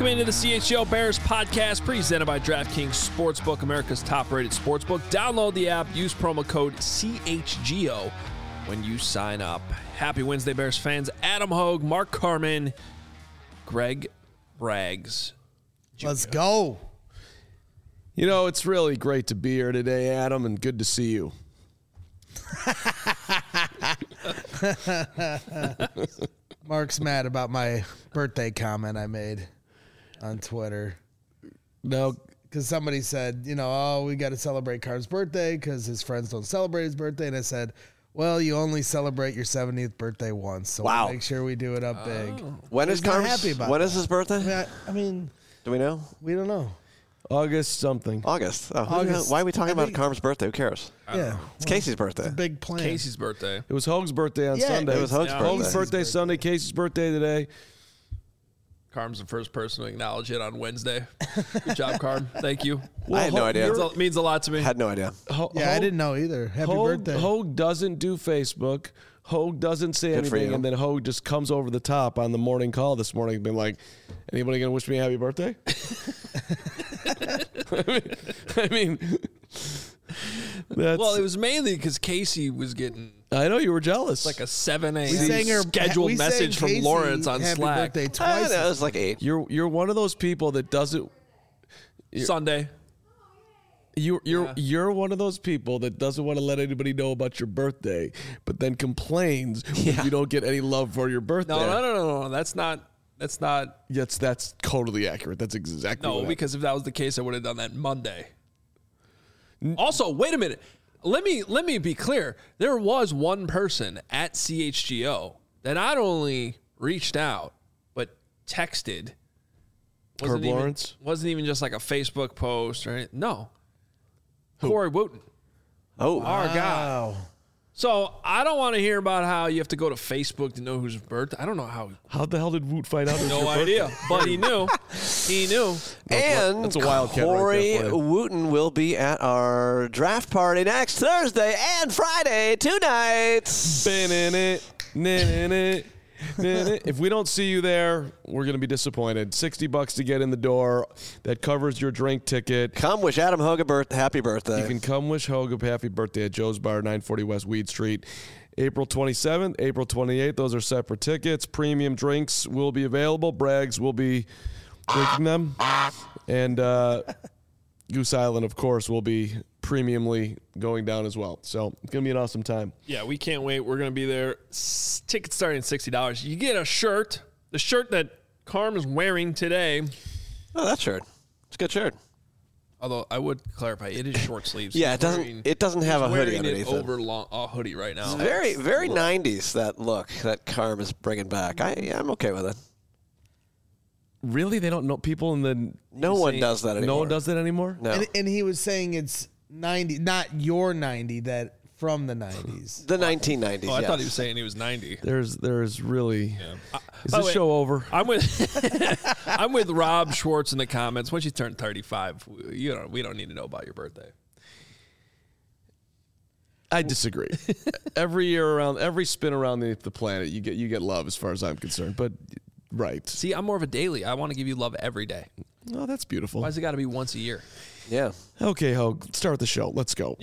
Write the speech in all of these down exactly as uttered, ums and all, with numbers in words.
Welcome into the C H G O Bears podcast presented by DraftKings Sportsbook, America's top-rated sportsbook. Download the app, use promo code C H G O when you sign up. Happy Wednesday, Bears fans. Adam Hogue, Mark Carman, Greg Braggs. Junior Let's go. You know, it's really great to be here today, Adam, and good to see you. Mark's mad about my birthday comment I made on Twitter. No, because somebody said, you know, oh, we got to celebrate Carm's birthday because his friends don't celebrate his birthday. And I said, well, you only celebrate your seventieth birthday once. So wow. we'll make sure we do it up big. Oh. When is He's not Carm's, happy about when that. is his birthday? I mean, I, I mean, do we know? We don't know. August something. August. Oh, August. Why are we talking I about think- Carm's birthday? Who cares? Yeah. It's Casey's birthday. It's a big plan. Casey's birthday. It was Hogue's birthday on Yeah, Sunday. It was Hogue's Yeah. birthday. Hogue's birthday Sunday, Casey's birthday today. Carm's the first person to acknowledge it on Wednesday. Good job, Carm. Thank you. I had no Hogue- idea. Means a, means a lot to me. Had no idea. Ho- Yeah, I Hogue- didn't know either. Happy Hogue, birthday. Hogue doesn't do Facebook. Hogue doesn't say Good for anything, you. and then Hogue just comes over the top on the morning call this morning and been like, anybody going to wish me a happy birthday? I mean, I mean that's, Well, it was mainly because Casey was getting I know you were jealous. like a seven a.m. We sang her scheduled we sang message from Casey Lawrence on happy Slack. birthday I twice. know, it was like eight. You're you're one of those people that doesn't. Sunday. You you're Yeah. you're one of those people that doesn't want to let anybody know about your birthday, but then complains Yeah. when you don't get any love for your birthday. No, no, no, no, no. That's not. That's not. Yes, that's totally accurate. That's exactly No, what because if that was the case, I would have done that Monday. Also, wait a minute. Let me let me be clear. There was one person at C H G O that not only reached out but texted. Herb Wasn't even, Lawrence? wasn't even just like a Facebook post or anything. No. Corey Wooten. Oh, Our guy. Wow. So I don't want to hear about how you have to go to Facebook to know whose birthday. I don't know how. How the hell did Woot find out? It was No your idea. birthday? But he knew. He knew. and that's a wildcat right Corey there for you. Wooten will be at our draft party next Thursday and Friday, two nights. Ba-na-na, na-na-na, na-na. If we don't see you there, we're going to be disappointed. sixty bucks to get in the door. That covers your drink ticket. Come wish Adam Hogue a birth- happy birthday. You can come wish Hogue a happy birthday at Joe's Bar, nine forty West Weed Street. April twenty-seventh, April twenty-eighth. Those are separate tickets. Premium drinks will be available. Braggs will be drinking them. And uh, Goose Island, of course, will be premiumly going down as well. So it's going to be an awesome time. Yeah, we can't wait. We're going to be there. S- Tickets starting at sixty dollars. You get a shirt, the shirt that Carm is wearing today. oh, that shirt. It's a good shirt. Although I would clarify, it is short sleeves. Yeah, He's it doesn't. wearing- It doesn't have a he's hoodie wearing underneath it it. over long, a hoodie right now. It's very, very nineties, that look that Carm is bringing back. I, yeah, I'm okay with it. Really? They don't know people in the... No one saying- does that anymore. No one does that anymore? No. And, and he was saying it's ninety, not your ninety, that from the nineties. The nineteen nineties, Oh, I yes. thought he was saying he was ninety. There's there's really... Is By the this way, show over? I'm with I'm with Rob Schwartz in the comments. Once you turn thirty-five, you know we don't need to know about your birthday. I disagree. Every year around, every spin around the, the planet, you get you get love as far as I'm concerned. But right. See, I'm more of a daily. I want to give you love every day. Oh, that's beautiful. Why's it got to be once a year? Yeah. Okay, Hogue, start the show. Let's go.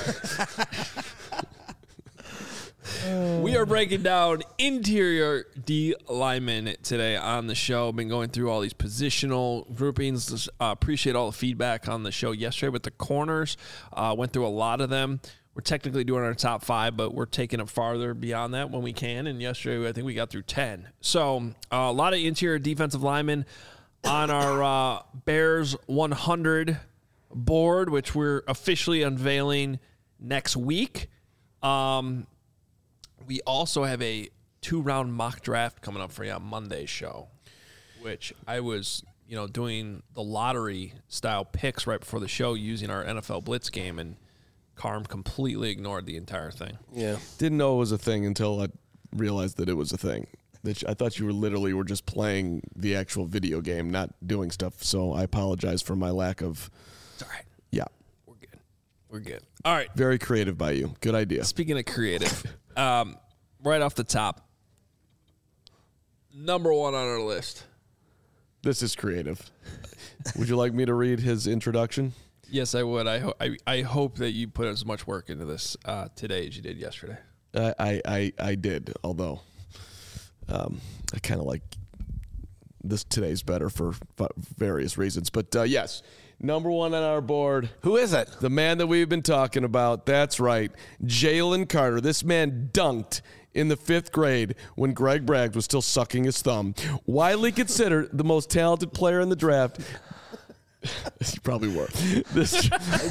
We are breaking down interior D linemen today on the show. Been going through all these positional groupings. Uh, appreciate all the feedback on the show yesterday with the corners. Uh, went through a lot of them. We're technically doing our top five, but we're taking it farther beyond that when we can. And yesterday, I think we got through ten. So uh, a lot of interior defensive linemen on our uh, Bears one hundred board, which we're officially unveiling next week. Um, we also have a two-round mock draft coming up for you on Monday's show, which I was, you know, doing the lottery-style picks right before the show using our N F L Blitz game, and Carm completely ignored the entire thing. Yeah. Didn't know it was a thing until I realized that it was a thing. That I thought you were literally were just playing the actual video game, not doing stuff. So I apologize for my lack of. It's all right. Yeah. We're good. We're good. All right. Very creative by you. Good idea. Speaking of creative, um, right off the top, number one on our list, This is creative. Would you like me to read his introduction? Yes, I would. I, ho- I I hope that you put as much work into this uh, today as you did yesterday. I I, I, I did, although um, I kind of like this today's better for various reasons. But uh, yes, number one on our board. Who is it? The man that we've been talking about. That's right, Jalen Carter. This man dunked in the fifth grade when Greg Bragg was still sucking his thumb. Widely considered the most talented player in the draft. You probably were. This,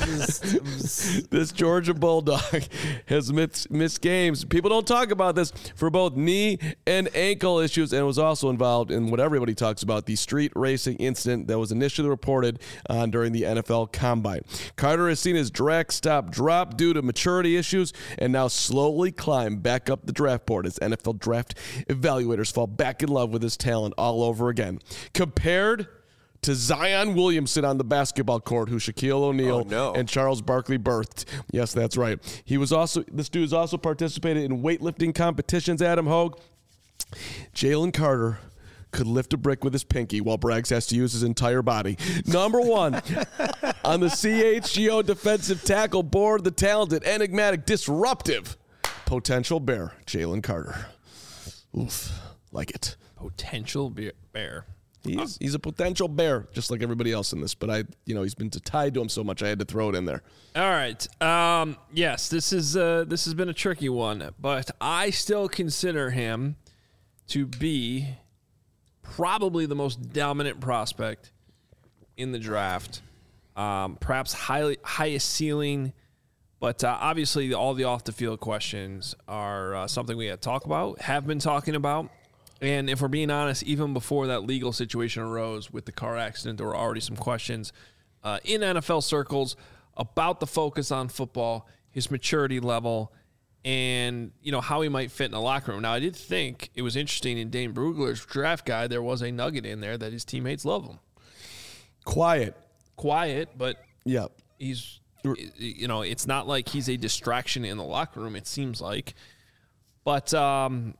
this Georgia Bulldog has missed, missed games. People don't talk about this for both knee and ankle issues, and was also involved in what everybody talks about, the street racing incident that was initially reported on during the N F L Combine. Carter has seen his draft stock drop due to maturity issues and now slowly climb back up the draft board as N F L draft evaluators fall back in love with his talent all over again. Compared to Zion Williamson on the basketball court, who Shaquille O'Neal oh, no. and Charles Barkley birthed. Yes, that's right. He was also this dude's also participated in weightlifting competitions. Adam Hogue, Jalen Carter could lift a brick with his pinky while Braggs has to use his entire body. Number one on the C H G O defensive tackle board, the talented, enigmatic, disruptive potential bear, Jalen Carter. Oof, like it. Potential be- bear. He's he's a potential bear, just like everybody else in this. But I, you know, he's been tied to him so much, I had to throw it in there. All right. Um, yes, this is uh, this has been a tricky one, but I still consider him to be probably the most dominant prospect in the draft. Um, perhaps highly highest ceiling, but uh, obviously all the off the field questions are uh, something we had to talk about, have been talking about. And if we're being honest, even before that legal situation arose with the car accident, there were already some questions uh, in N F L circles about the focus on football, his maturity level, and you know how he might fit in the locker room. Now, I did think it was interesting in Dane Brugler's draft guide, there was a nugget in there that his teammates love him. Quiet. Quiet, but yeah, he's, you know, it's not like he's a distraction in the locker room, it seems like. But, um...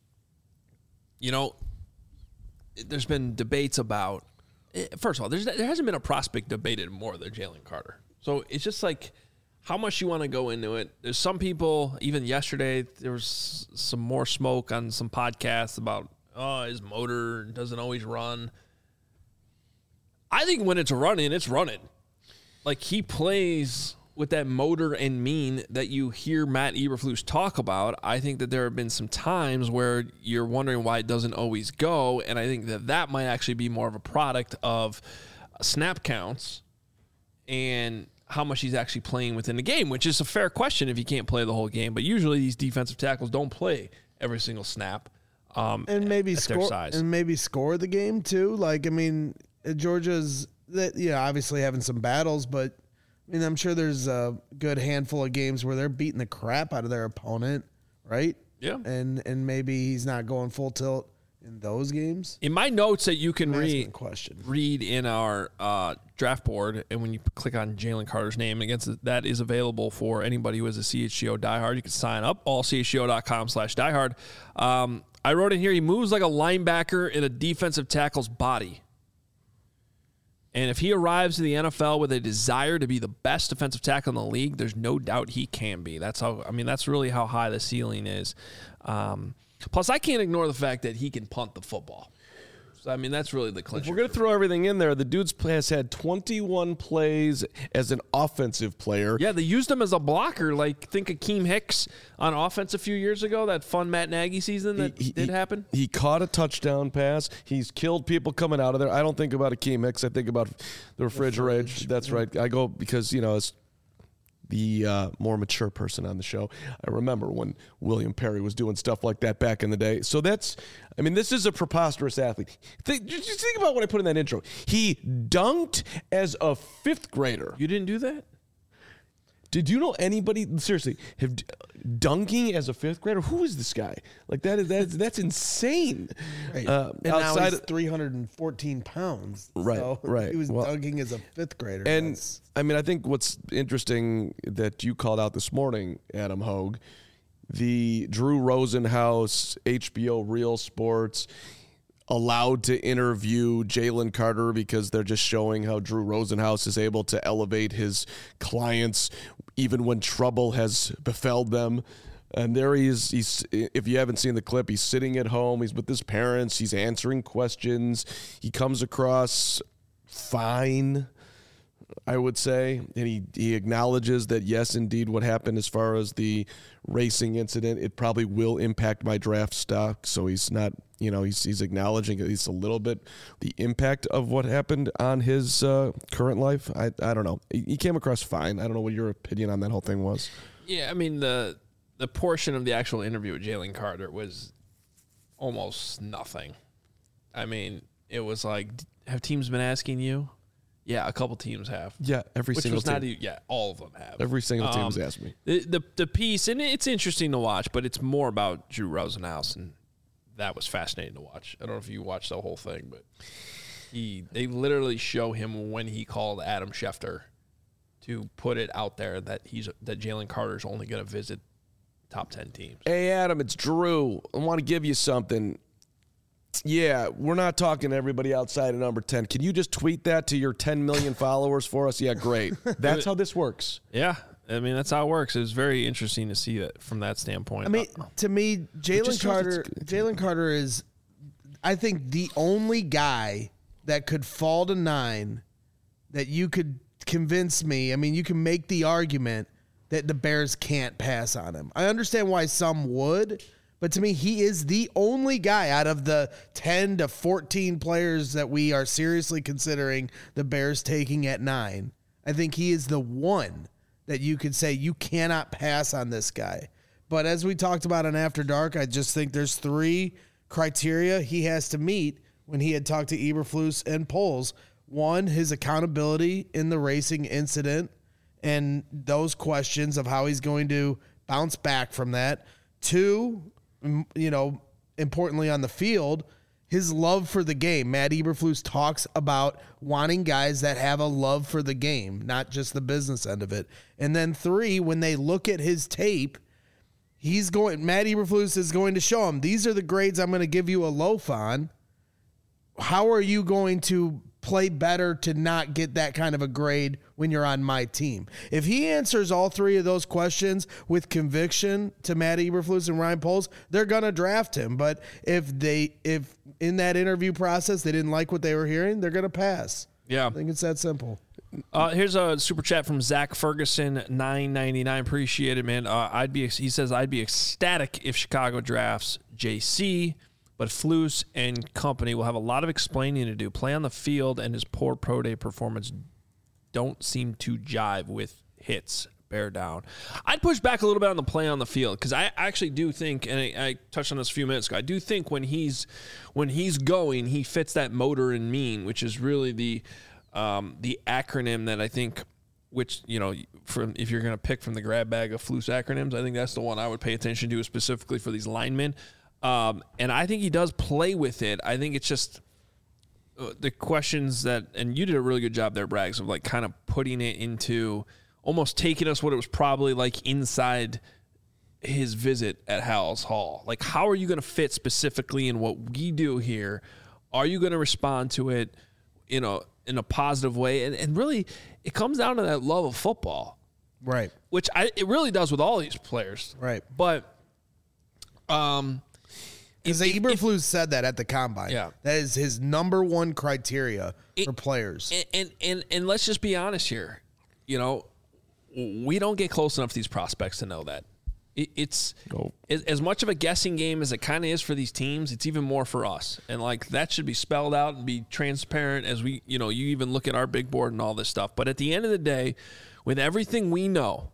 You know, there's been debates about, first of all, there's, there hasn't been a prospect debated more than Jalen Carter. So it's just like how much you want to go into it. There's some people, even yesterday, there was some more smoke on some podcasts about, oh, his motor doesn't always run. I think when it's running, it's running. Like he plays with that motor and mean that you hear Matt Eberflus talk about. I think that there have been some times where you're wondering why it doesn't always go, and I think that that might actually be more of a product of snap counts and how much he's actually playing within the game, which is a fair question if you can't play the whole game. But usually these defensive tackles don't play every single snap. Um, and maybe at score their size. and maybe score the game too. Like I mean, Georgia's that you know obviously having some battles, but. I mean, I'm sure there's a good handful of games where they're beating the crap out of their opponent, right? Yeah. And and maybe he's not going full tilt in those games. In my notes that you can read, question. read in our uh, draft board, and when you click on Jalen Carter's name, against that is available for anybody who is a C H G O diehard. You can sign up, all C H G O dot com slash diehard. Um, I wrote in here, he moves like a linebacker in a defensive tackle's body. And if he arrives to the N F L with a desire to be the best defensive tackle in the league, there's no doubt he can be. That's how. I mean, that's really how high the ceiling is. Um, plus, I can't ignore the fact that he can punt the football. So, I mean, that's really the clincher. If we're going to throw everything in there, the dude's has had twenty-one plays as an offensive player. Yeah, they used him as a blocker. Like, think Akeem Hicks on offense a few years ago, that fun Matt Nagy season that he, he, did he, happen. He caught a touchdown pass. He's killed people coming out of there. I don't think about Akeem Hicks. I think about the refrigerator. The fridge. That's right. I go because, you know, it's the uh, more mature person on the show. I remember when William Perry was doing stuff like that back in the day. So that's, I mean, this is a preposterous athlete. Think, just think about what I put in that intro. He dunked as a fifth grader. You didn't do that? Did you know anybody, seriously, have dunking as a fifth grader? Who is this guy? Like, that is that's, that's insane. Right. Uh, and now he's of, three hundred fourteen pounds. Right, so right. He was well, dunking as a fifth grader. And, that's, I mean, I think what's interesting that you called out this morning, Adam Hogue, the Drew Rosenhaus, H B O Real Sports, allowed to interview Jalen Carter because they're just showing how Drew Rosenhaus is able to elevate his clients even when trouble has befelled them. And there he is. He's, if you haven't seen the clip, he's sitting at home. He's with his parents. He's answering questions. He comes across fine, I would say. And he, he acknowledges that, yes, indeed, what happened as far as the racing incident, it probably will impact my draft stock. So he's not, you know, he's, he's acknowledging at least a little bit the impact of what happened on his uh, current life. I, I don't know. He, he came across fine. I don't know what your opinion on that whole thing was. Yeah, I mean, the the portion of the actual interview with Jalen Carter was almost nothing. I mean, it was like, have teams been asking you? Yeah, a couple teams have. Yeah, every Which single was team. not even, yeah, all of them have. Every single team Um, has asked me. The, the the piece, and it's interesting to watch, but it's more about Drew Rosenhaus, and that was fascinating to watch. I don't know if you watched the whole thing, but he they literally show him when he called Adam Schefter to put it out there that he's that Jalen Carter's only going to visit top ten teams. Hey, Adam, it's Drew. I want to give you something. Yeah, we're not talking to everybody outside of number ten. Can you just tweet that to your ten million followers for us? Yeah, great. That's how this works. Yeah, I mean, that's how it works. It was very interesting to see that from that standpoint. I mean, to me, Jalen just shows Carter, it's- Jalen Carter is, I think, the only guy that could fall to nine that you could convince me. I mean, you can make the argument that the Bears can't pass on him. I understand why some would, but to me, he is the only guy out of the ten to fourteen players that we are seriously considering the Bears taking at nine. I think he is the one that you could say you cannot pass on this guy. But as we talked about on After Dark, I just think there's three criteria he has to meet when he had talked to Eberflus and Poles. One, his accountability in the racing incident and those questions of how he's going to bounce back from that. Two, m- you know, importantly on the field, his love for the game. Matt Eberflus talks about wanting guys that have a love for the game, not just the business end of it. And then three, when they look at his tape, he's going, Matt Eberflus is going to show him, these are the grades I'm going to give you a loaf on. How are you going to play better to not get that kind of a grade when you're on my team? If he answers all three of those questions with conviction to Matt Eberflus and Ryan Poles, they're going to draft him. But if they, if in that interview process they didn't like what they were hearing, they're going to pass. Yeah. I think it's that simple. Uh, here's a super chat from Zach Ferguson, nine ninety-nine. Appreciate it, man. Uh, I'd be. He says I'd be ecstatic if Chicago drafts J C, but Flus and company will have a lot of explaining to do. Play on the field and his poor pro day performance don't seem to jive with hits. Bear down. I'd push back a little bit on the play on the field because I actually do think, and I, I touched on this a few minutes ago, I do think when he's when he's going, he fits that motor and mean, which is really the um, the acronym that I think, which, you know, from if you're going to pick from the grab bag of Flus acronyms, I think that's the one I would pay attention to specifically for these linemen. Um, and I think he does play with it. I think it's just uh, the questions that, and you did a really good job there, Braggs, of like kind of putting it into almost taking us what it was probably like inside his visit at Hal's Hall. Like, how are you going to fit specifically in what we do here? Are you going to respond to it, you know, in a positive way? And, and really, it comes down to that love of football. Right. Which I, it really does with all these players. Right. But, um, Because if- if- Eberflus said that at the combine. Yeah. That is his number one criteria It- for players. And, and and and let's just be honest here. You know, we don't get close enough to these prospects to know that. It, it's Nope. as, as much of a guessing game as it kind of is for these teams. It's even more for us, and like that should be spelled out and be transparent as we, you know, you even look at our big board and all this stuff. But at the end of the day, with everything we know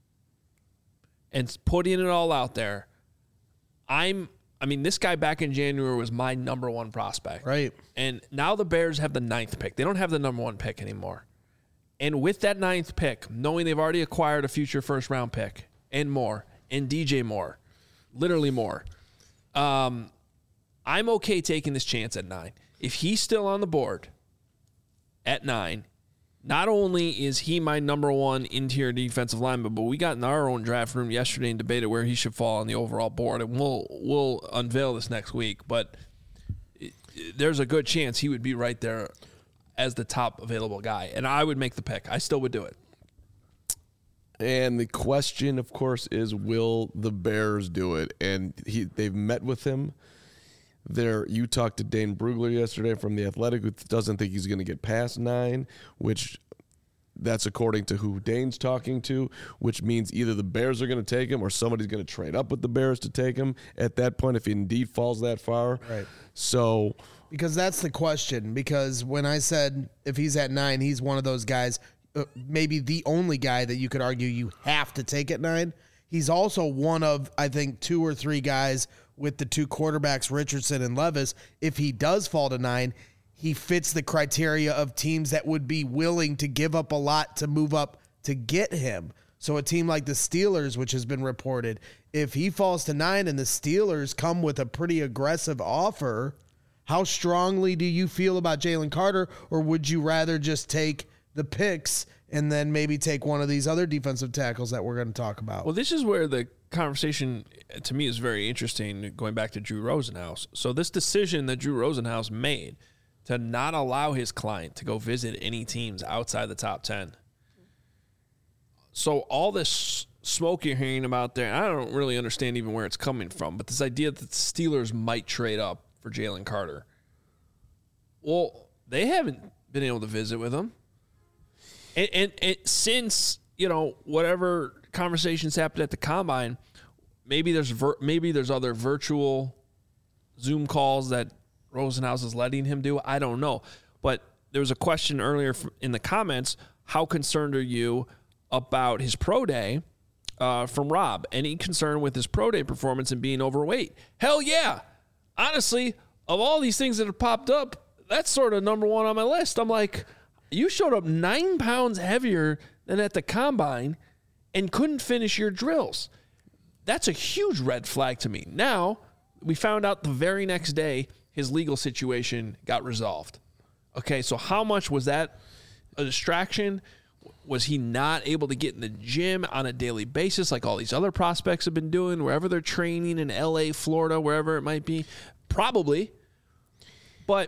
and putting it all out there, I'm. I mean, this guy back in January was my number one prospect. Right. And now the Bears have the ninth pick. They don't have the number one pick anymore. And with that ninth pick, knowing they've already acquired a future first round pick and more, and D J Moore, literally more, um, I'm okay taking this chance at nine. If he's still on the board at nine, not only is he my number one interior defensive lineman, but we got in our own draft room yesterday and debated where he should fall on the overall board, and we'll we'll unveil this next week. But there's a good chance he would be right there as the top available guy. And I would make the pick. I still would do it. And the question, of course, is will the Bears do it? And he they've met with him. There, you talked to Dane Brugler yesterday from The Athletic, who doesn't think he's going to get past nine, which that's according to who Dane's talking to, which means either the Bears are going to take him or somebody's going to trade up with the Bears to take him at that point if he indeed falls that far. Right. So, because that's the question. Because when I said if he's at nine, he's one of those guys, uh, maybe the only guy that you could argue you have to take at nine. He's also one of, I think, two or three guys with the two quarterbacks, Richardson and Levis. If he does fall to nine, he fits the criteria of teams that would be willing to give up a lot to move up to get him. So a team like the Steelers, which has been reported, if he falls to nine and the Steelers come with a pretty aggressive offer, how strongly do you feel about Jalen Carter? Or would you rather just take the picks and then maybe take one of these other defensive tackles that we're going to talk about? Well, this is where the conversation, to me, is very interesting, going back to Drew Rosenhaus. So this decision that Drew Rosenhaus made to not allow his client to go visit any teams outside the top ten. So all this smoke you're hearing about there, I don't really understand even where it's coming from, but this idea that the Steelers might trade up for Jalen Carter. Well, they haven't been able to visit with him. And, and, and since, you know, whatever conversations happened at the Combine, maybe there's vir- maybe there's other virtual Zoom calls that Rosenhaus is letting him do. I don't know. But there was a question earlier in the comments, how concerned are you about his pro day uh, from Rob? Any concern with his pro day performance and being overweight? Hell yeah. Honestly, of all these things that have popped up, that's sort of number one on my list. I'm like, you showed up nine pounds heavier than at the Combine and couldn't finish your drills. That's a huge red flag to me. Now, we found out the very next day his legal situation got resolved. Okay, so how much was that a distraction? Was he not able to get in the gym on a daily basis like all these other prospects have been doing, wherever they're training in L A, Florida, wherever it might be? Probably. But,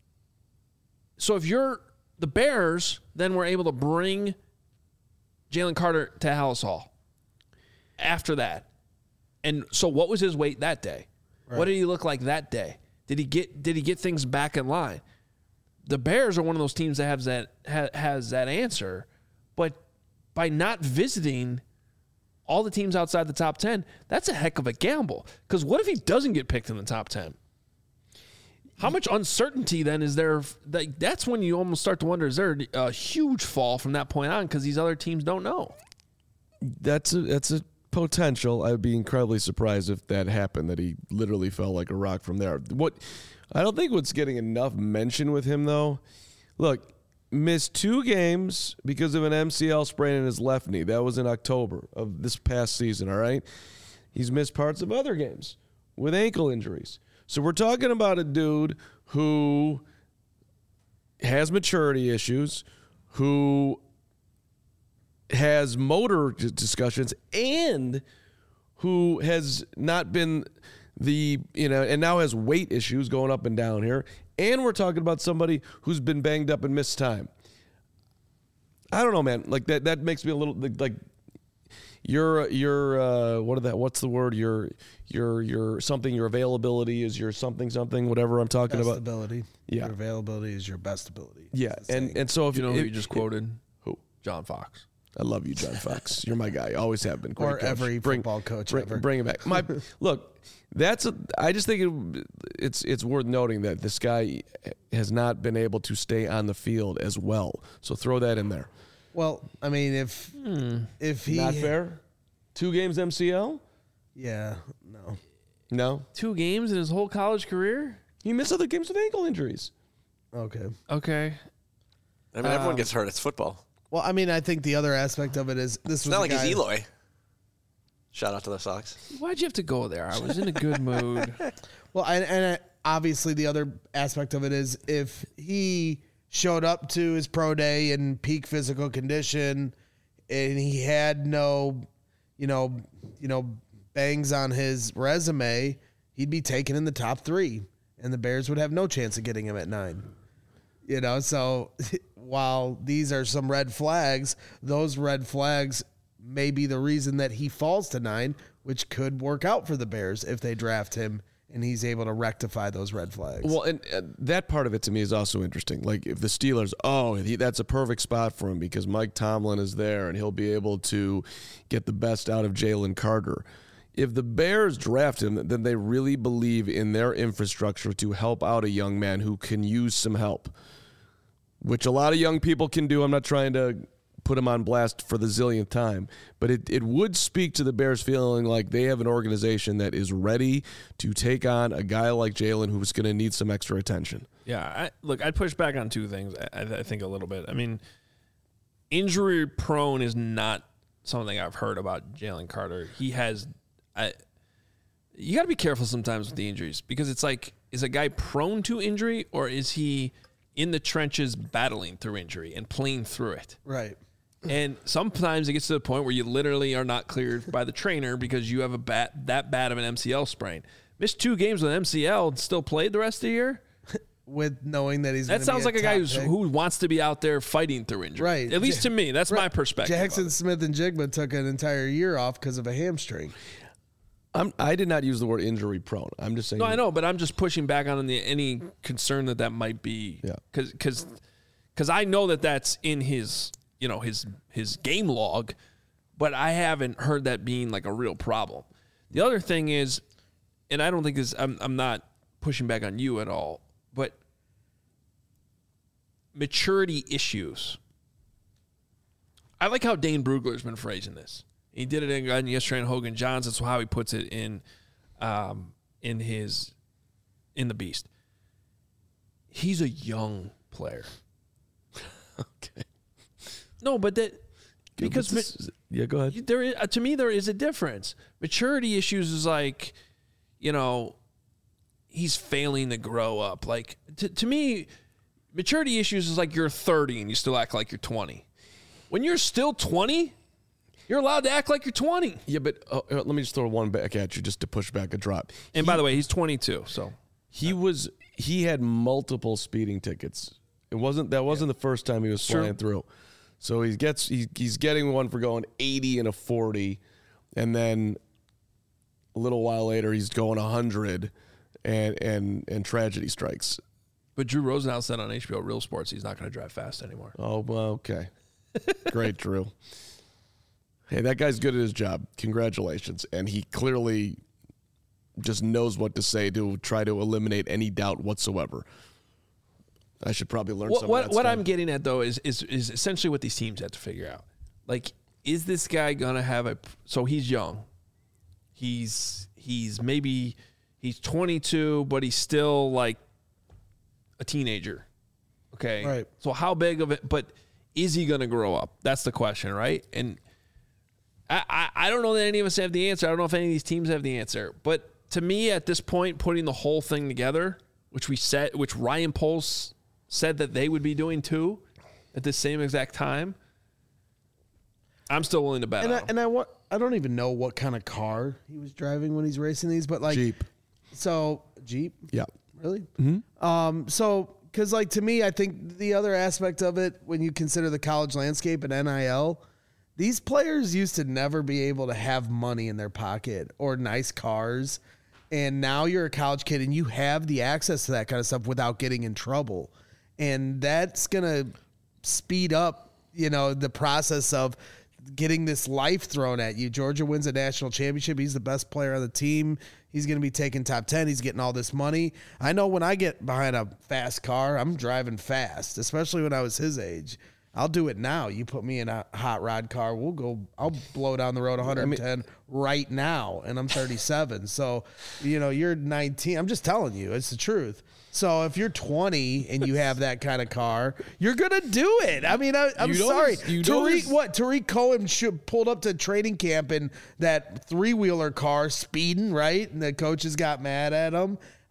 so if you're the Bears, then were able to bring Jalen Carter to Hallis Hall after that. And so what was his weight that day? Right. What did he look like that day? Did he get did he get things back in line? The Bears are one of those teams that has that ha, has that answer, but by not visiting all the teams outside the top ten, that's a heck of a gamble. Because what if he doesn't get picked in the top ten? How much uncertainty then is there? That, that's when you almost start to wonder, is there a huge fall from that point on because these other teams don't know? That's a, that's a potential. I'd be incredibly surprised if that happened, that he literally fell like a rock from there. What I don't think what's getting enough mention with him, though, look, missed two games because of an M C L sprain in his left knee. That was in October of this past season, all right? He's missed parts of other games with ankle injuries. So we're talking about a dude who has maturity issues, who has motor discussions, and who has not been the, you know, and now has weight issues going up and down here. And we're talking about somebody who's been banged up and missed time. I don't know, man. Like that, that makes me a little like your, your, uh, what are that? What's the word? Your, your, your something, your availability is your something, something, whatever I'm talking best about. Ability. Yeah. Your availability is your best ability. Yeah. And, and so if you know if, who you just quoted? Who? John Fox. I love you, John Fox. You're my guy. Always have been. Great or coach. every bring, football coach bring, ever. Bring it back. My look, that's a, I just think it, it's it's worth noting that this guy has not been able to stay on the field as well. So throw that in there. Well, I mean, if Hmm. if he Not fair. Two games M C L? Yeah, no. No. Two games in his whole college career? He missed other games with ankle injuries. Okay. Okay. I mean, everyone Um, gets hurt. It's football. Well, I mean, I think the other aspect of it is this It's was not a like guy, he's Eloy. Shout out to the Sox. Why'd you have to go there? I was in a good mood. Well, and, and uh, obviously the other aspect of it is if he showed up to his pro day in peak physical condition and he had no, you know, you know, bangs on his resume, he'd be taken in the top three. and the Bears would have no chance of getting him at nine. You know, so while these are some red flags, those red flags may be the reason that he falls to nine, which could work out for the Bears if they draft him and he's able to rectify those red flags. Well, and uh, that part of it to me is also interesting. Like if the Steelers, oh, he, that's a perfect spot for him because Mike Tomlin is there and he'll be able to get the best out of Jalen Carter. If the Bears draft him, then they really believe in their infrastructure to help out a young man who can use some help, which a lot of young people can do. I'm not trying to put him on blast for the zillionth time, but it, it would speak to the Bears feeling like they have an organization that is ready to take on a guy like Jalen who's going to need some extra attention. Yeah, I, look, I'd push back on two things, I, I think, a little bit. I mean, injury prone is not something I've heard about Jalen Carter. He has I, you got to be careful sometimes with the injuries because it's like, is a guy prone to injury or is he in the trenches battling through injury and playing through it? Right. And sometimes it gets to the point where you literally are not cleared by the trainer because you have a bat, that bad of an M C L sprain. Missed two games with an M C L and still played the rest of the year? With knowing that he's That sounds like a guy who's, who wants to be out there fighting through injury. Right. At least to me. That's right. my perspective. Jackson Smith and Jigma took an entire year off because of a hamstring. I'm, I did not use the word injury prone. I'm just saying. No, I know, but I'm just pushing back on the, any concern that that might be. Yeah. Because because I know that that's in his, you know, his his game log, but I haven't heard that being like a real problem. The other thing is, and I don't think this, I'm, I'm not pushing back on you at all, but maturity issues. I like how Dane Brugler's been phrasing this. He did it in yesterday in Hogan Johns. That's how he puts it in, um, in his, in the Beast. He's a young player. Okay. No, but that because this, yeah, go ahead. There is, to me, there is a difference. Maturity issues is like, you know, he's failing to grow up. Like to, to me, maturity issues is like you're thirty and you still act like you're twenty. When you're still twenty, you're allowed to act like you're twenty. Yeah, but uh, let me just throw one back at you just to push back a drop. And he, by the way, he's twenty-two, so he was he had multiple speeding tickets. It wasn't that wasn't yeah. the first time he was sure. flying through. So he gets he, he's getting one for going eighty and a forty, and then a little while later he's going one hundred, and and and tragedy strikes. But Drew Rosenhaus said on H B O Real Sports he's not going to drive fast anymore. Oh, well, okay. Great, Drew. Hey, that guy's good at his job. Congratulations. And he clearly just knows what to say to try to eliminate any doubt whatsoever. I should probably learn what, some what, of that What stuff. I'm getting at, though, is, is is essentially what these teams have to figure out. Like, is this guy going to have a – so he's young. He's he's maybe – he's twenty-two, but he's still, like, a teenager. Okay? Right. So how big of it – but is he going to grow up? That's the question, right? And I, I, I don't know that any of us have the answer. I don't know if any of these teams have the answer. But to me, at this point, putting the whole thing together, which we said – which Ryan Poles – said that they would be doing too at the same exact time, I'm still willing to bet and on I, him. and I want I don't even know what kind of car he was driving when he's racing these, but like Jeep. So Jeep, Yeah. really? Mm-hmm. Um, so because like to me, I think the other aspect of it, when you consider the college landscape and N I L, these players used to never be able to have money in their pocket or nice cars, and now you're a college kid and you have the access to that kind of stuff without getting in trouble. And that's going to speed up, you know, the process of getting this life thrown at you. Georgia wins a national championship. He's the best player on the team. He's going to be taking top ten. He's getting all this money. I know when I get behind a fast car, I'm driving fast, especially when I was his age. I'll do it now. You put me in a hot rod car, we'll go, I'll blow down the road one hundred ten I mean, right now, and I'm thirty-seven. So, you know, you're nineteen. I'm just telling you, it's the truth. So if you're twenty and you have that kind of car, you're gonna do it. I mean, I, I'm you sorry. You Tariq, what? Tariq Cohen should, pulled up to training camp in that three wheeler car, speeding, right? And the coaches got mad at him.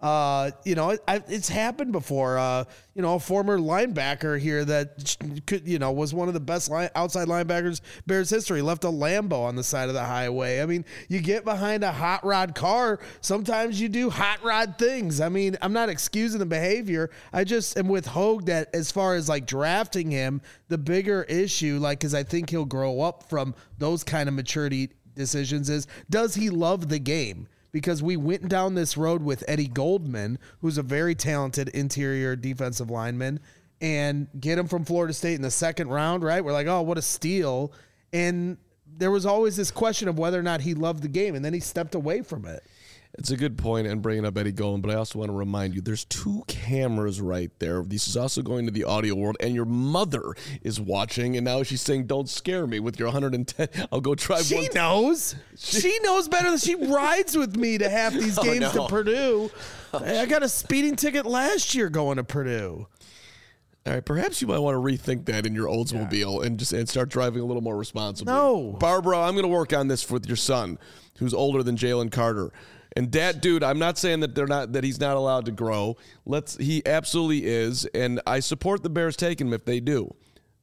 Uh, you know, it, I, it's happened before. Uh, you know, a former linebacker here that could, you know, was one of the best line, outside linebackers Bears history, left a Lambo on the side of the highway. I mean, you get behind a hot rod car, sometimes you do hot rod things. I mean, I'm not excusing the behavior. I just am with Hogue that as far as like drafting him, the bigger issue, like, because I think he'll grow up from those kind of maturity decisions, is does he love the game? Because we went down this road with Eddie Goldman, who's a very talented interior defensive lineman, and get him from Florida State in the second round, right? We're like, oh, what a steal. And there was always this question of whether or not he loved the game, and then he stepped away from it. It's a good point and bringing up Eddie Goldman, but I also want to remind you there's two cameras right there. This is also going to the audio world, and your mother is watching, and now she's saying, don't scare me with your one hundred ten. I'll go drive she one. She knows. She knows better than she rides with me to half these games oh, no. to Purdue. I got a speeding ticket last year going to Purdue. All right, perhaps you might want to rethink that in your Oldsmobile yeah. and just and start driving a little more responsibly. No. Barbara, I'm going to work on this with your son, who's older than Jalen Carter. And dad, dude, I'm not saying that they're not that he's not allowed to grow. Let's he absolutely is, and I support the Bears taking him if they do.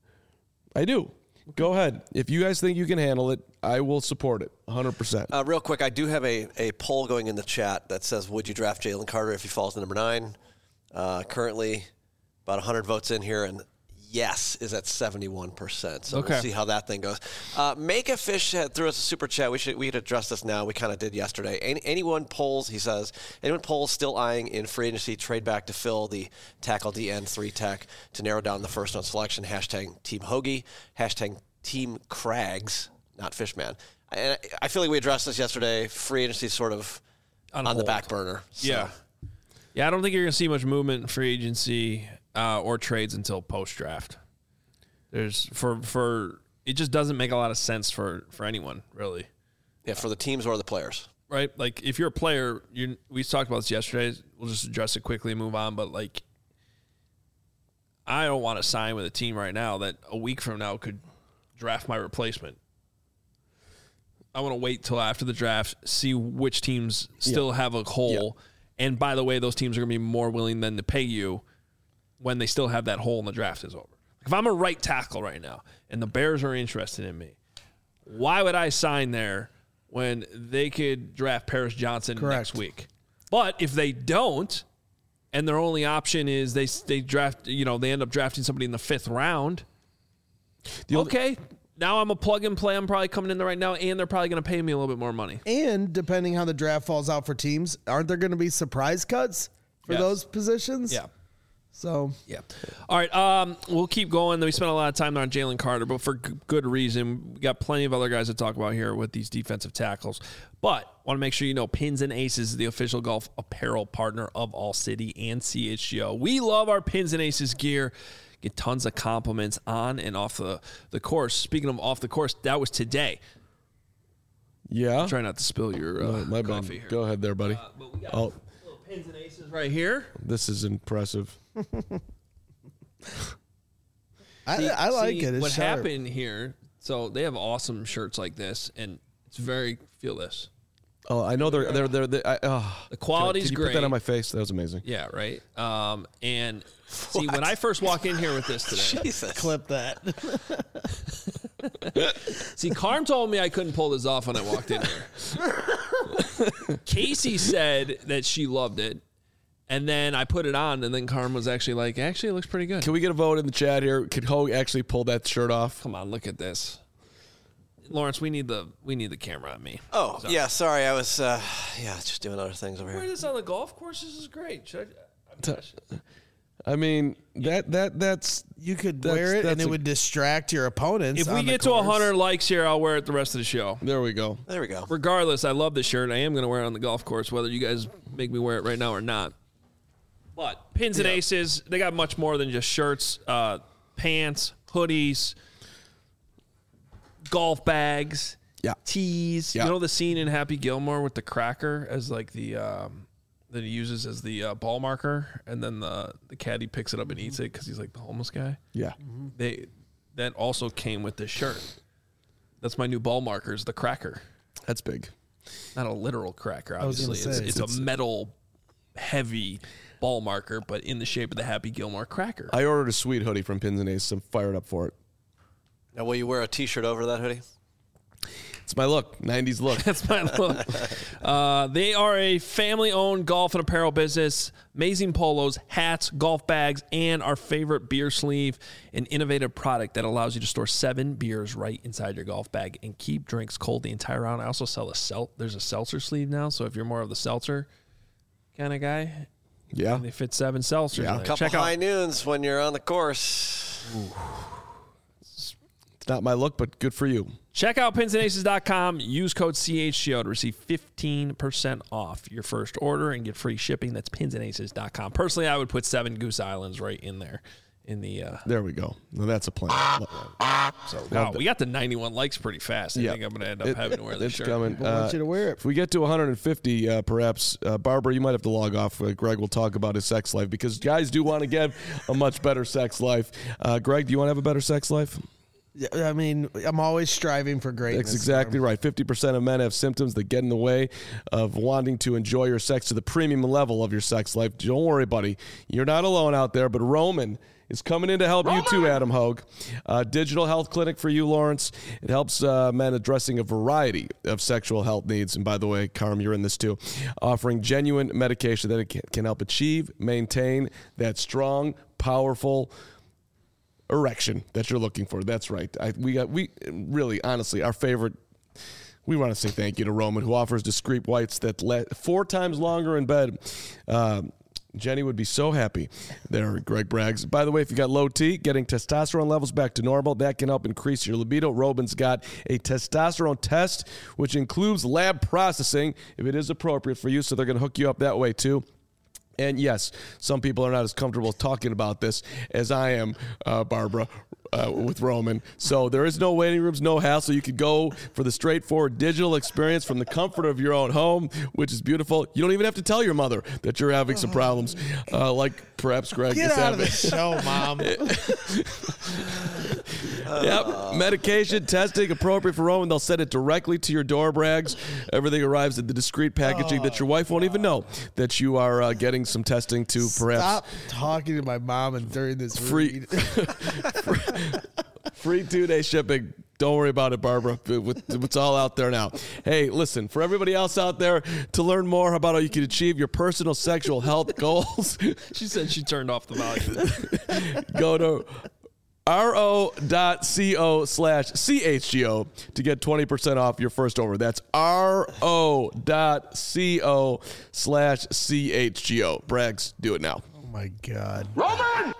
I do. Go ahead. If you guys think you can handle it, I will support it one hundred percent. Uh, real quick, I do have a, a poll going in the chat that says, would you draft Jalen Carter if he falls to number nine? Uh, currently, about one hundred votes in here, and yes is at seventy-one percent. So okay. We'll see how that thing goes. Uh, Make a Fish had threw us a super chat. We should we could address this now. We kind of did yesterday. Any, anyone polls, he says, anyone polls still eyeing in free agency trade back to fill the tackle D N three tech to narrow down the first round selection. Hashtag Team Hoagie. Hashtag Team Crags, not Fishman. And I feel like we addressed this yesterday. Free agency sort of on, on the back burner. So. Yeah. Yeah, I don't think you're going to see much movement in free agency Uh, or trades until post draft. There's for for it just doesn't make a lot of sense for, for anyone really. Yeah, for the teams or the players, right? Like if you're a player, you we talked about this yesterday. We'll just address it quickly and move on. But like, I don't want to sign with a team right now that a week from now could draft my replacement. I want to wait till after the draft, see which teams still yeah. have a hole, yeah. and by the way, those teams are going to be more willing than to pay you when they still have that hole in the draft is over. If I'm a right tackle right now and the Bears are interested in me, why would I sign there when they could draft Paris Johnson Correct. next week? But if they don't, and their only option is they they draft, you know, they end up drafting somebody in the fifth round, the okay, only- now I'm a plug and play. I'm probably coming in there right now, and they're probably going to pay me a little bit more money. And depending how the draft falls out for teams, aren't there going to be surprise cuts for yes. those positions? Yeah. So, yeah. All right. Um, we'll keep going. We spent a lot of time on Jalen Carter, but for g- good reason. We got plenty of other guys to talk about here with these defensive tackles. But want to make sure you know Pins and Aces is the official golf apparel partner of All City and C H G O. We love our Pins and Aces gear. Get tons of compliments on and off the, the course. Speaking of off the course, that was today. Yeah. Try not to spill your uh, no, my coffee bad. here. Go ahead there, buddy. Uh, but we got oh. little Pins and Aces right here. This is impressive. I, see, I like see, it. It's what sharp. happened here? So they have awesome shirts like this, and it's very feel this. Oh, I know they're they're they're. they're I, oh. The quality's Can you great. Put that on my face. That was amazing. Yeah, right. Um, and see, when I first walk in here with this today, Jesus. Clip that. See, Carm told me I couldn't pull this off when I walked in here. Casey said that she loved it. And then I put it on, and then Carm was actually like, actually, it looks pretty good. Can we get a vote in the chat here? Could Hogue actually pull that shirt off? Come on, look at this. Lawrence, we need the we need the camera on me. Oh, so. yeah, sorry. I was, uh, yeah, just doing other things over Wear here. this on the golf course. This is great. Should I, I mean, that that that's... You could wear it, and it a, would distract your opponents. If we get to one hundred likes here, I'll wear it the rest of the show. There we go. There we go. Regardless, I love this shirt. I am going to wear it on the golf course, whether you guys make me wear it right now or not. But Pins and yeah. Aces, they got much more than just shirts, uh, pants, hoodies, golf bags, yeah. tees. Yeah. You know the scene in Happy Gilmore with the cracker as like the um, that he uses as the uh, ball marker, and then the the caddy picks it up and eats it because he's like the homeless guy. Yeah, mm-hmm. they that also came with this shirt. That's my new ball marker, is the cracker. That's big. Not a literal cracker, obviously. Say, it's, it's, it's a metal heavy ball marker, but in the shape of the Happy Gilmore cracker. I ordered a sweet hoodie from Pins and Aces. I'm fired up for it. Now, will you wear a T-shirt over that hoodie? It's my look, nineties look. That's my look. Uh, they are a family-owned golf and apparel business. Amazing polos, hats, golf bags, and our favorite beer sleeve, an innovative product that allows you to store seven beers right inside your golf bag and keep drinks cold the entire round. I also sell a sel- There's a seltzer sleeve now, so if you're more of the seltzer kind of guy, Yeah. they fit seven seltzers. Yeah. in there. A couple Check high out. noons when you're on the course. It's not my look, but good for you. Check out pins and aces dot com. Use code C H G O to receive fifteen percent off your first order and get free shipping. That's pins and aces dot com. Personally, I would put seven Goose Islands right in there. In the uh, There we go. Well, that's a plan. so wow, we got the ninety-one likes pretty fast. I Yeah. think I'm going to end up It- having to wear this it's shirt. coming. I want Uh, you to wear it. If we get to one hundred fifty, uh, perhaps, uh, Barbara, you might have to log off. Uh, Greg will talk about his sex life because guys do want to get a much better sex life. Uh, Greg, do you want to have a better sex life? I mean, I'm always striving for greatness. That's exactly right. fifty percent of men have symptoms that get in the way of wanting to enjoy your sex to the premium level of your sex life. Don't worry, buddy. You're not alone out there, but Roman is coming in to help you too, Adam Hogue. Uh, digital health clinic for you, Lawrence. It helps uh, men addressing a variety of sexual health needs. And by the way, Carm, you're in this too. Offering genuine medication that it can, can help achieve, maintain that strong, powerful erection that you're looking for. That's right. I, we got, we really, honestly, our favorite. We want to say thank you to Roman, who offers discreet whites that let four times longer in bed. Um, Jenny would be so happy there, Greg Braggs. By the way, if you got low T, getting testosterone levels back to normal, that can help increase your libido. Roman's got a testosterone test, which includes lab processing if it is appropriate for you, so they're going to hook you up that way too. And yes, some people are not as comfortable talking about this as I am, uh, Barbara, uh, with Roman. So there is no waiting rooms, no hassle. You could go for the straightforward digital experience from the comfort of your own home, which is beautiful. You don't even have to tell your mother that you're having some problems, uh, like perhaps Greg Get is out of having. the show, Mom. Yep, medication, testing, appropriate for Roman. They'll send it directly to your door, Braggs. Everything arrives in the discreet packaging that your wife won't even know that you are uh, getting some testing to perhaps Stop talking to my mom and during this free, read. free, free two-day shipping. Don't worry about it, Barbara. It's all out there now. Hey, listen, for everybody else out there, to learn more about how you can achieve your personal sexual health goals, She said she turned off the volume. go to ro.co slash CHGO to get twenty percent off your first order. That's ro.co slash CHGO. Braggs, do it now. Oh my God. Roman!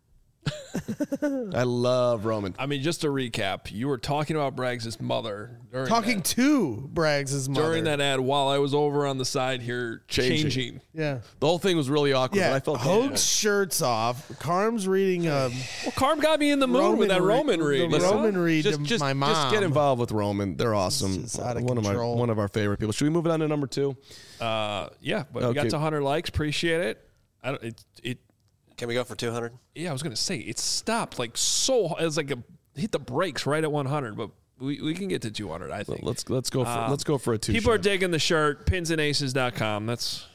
I love Roman. I mean, just to recap, you were talking about Braggs' mother during Talking that, to Braggs' mother. during that ad while I was over on the side here Changing. changing. Yeah. The whole thing was really awkward, Yeah. but I felt Hoag's shirt's off. Carm's reading um, Well, Carm got me in the mood with that re- Roman read. The you know? Roman read just, to just, my mom. just get involved with Roman. They're awesome. just out of one control. of my one of our favorite people. Should we move it on to number two? Uh, yeah, but we Okay. got to one hundred likes. Appreciate it. I don't, it, it. Can we go for two hundred? Yeah, I was gonna say it stopped like so. It was like a hit the brakes right at one hundred, but we, we can get to two hundred. I think. Let's let's go for Um, let's go for a two. People are shot. digging the shirt. pins and aces dot com. That's.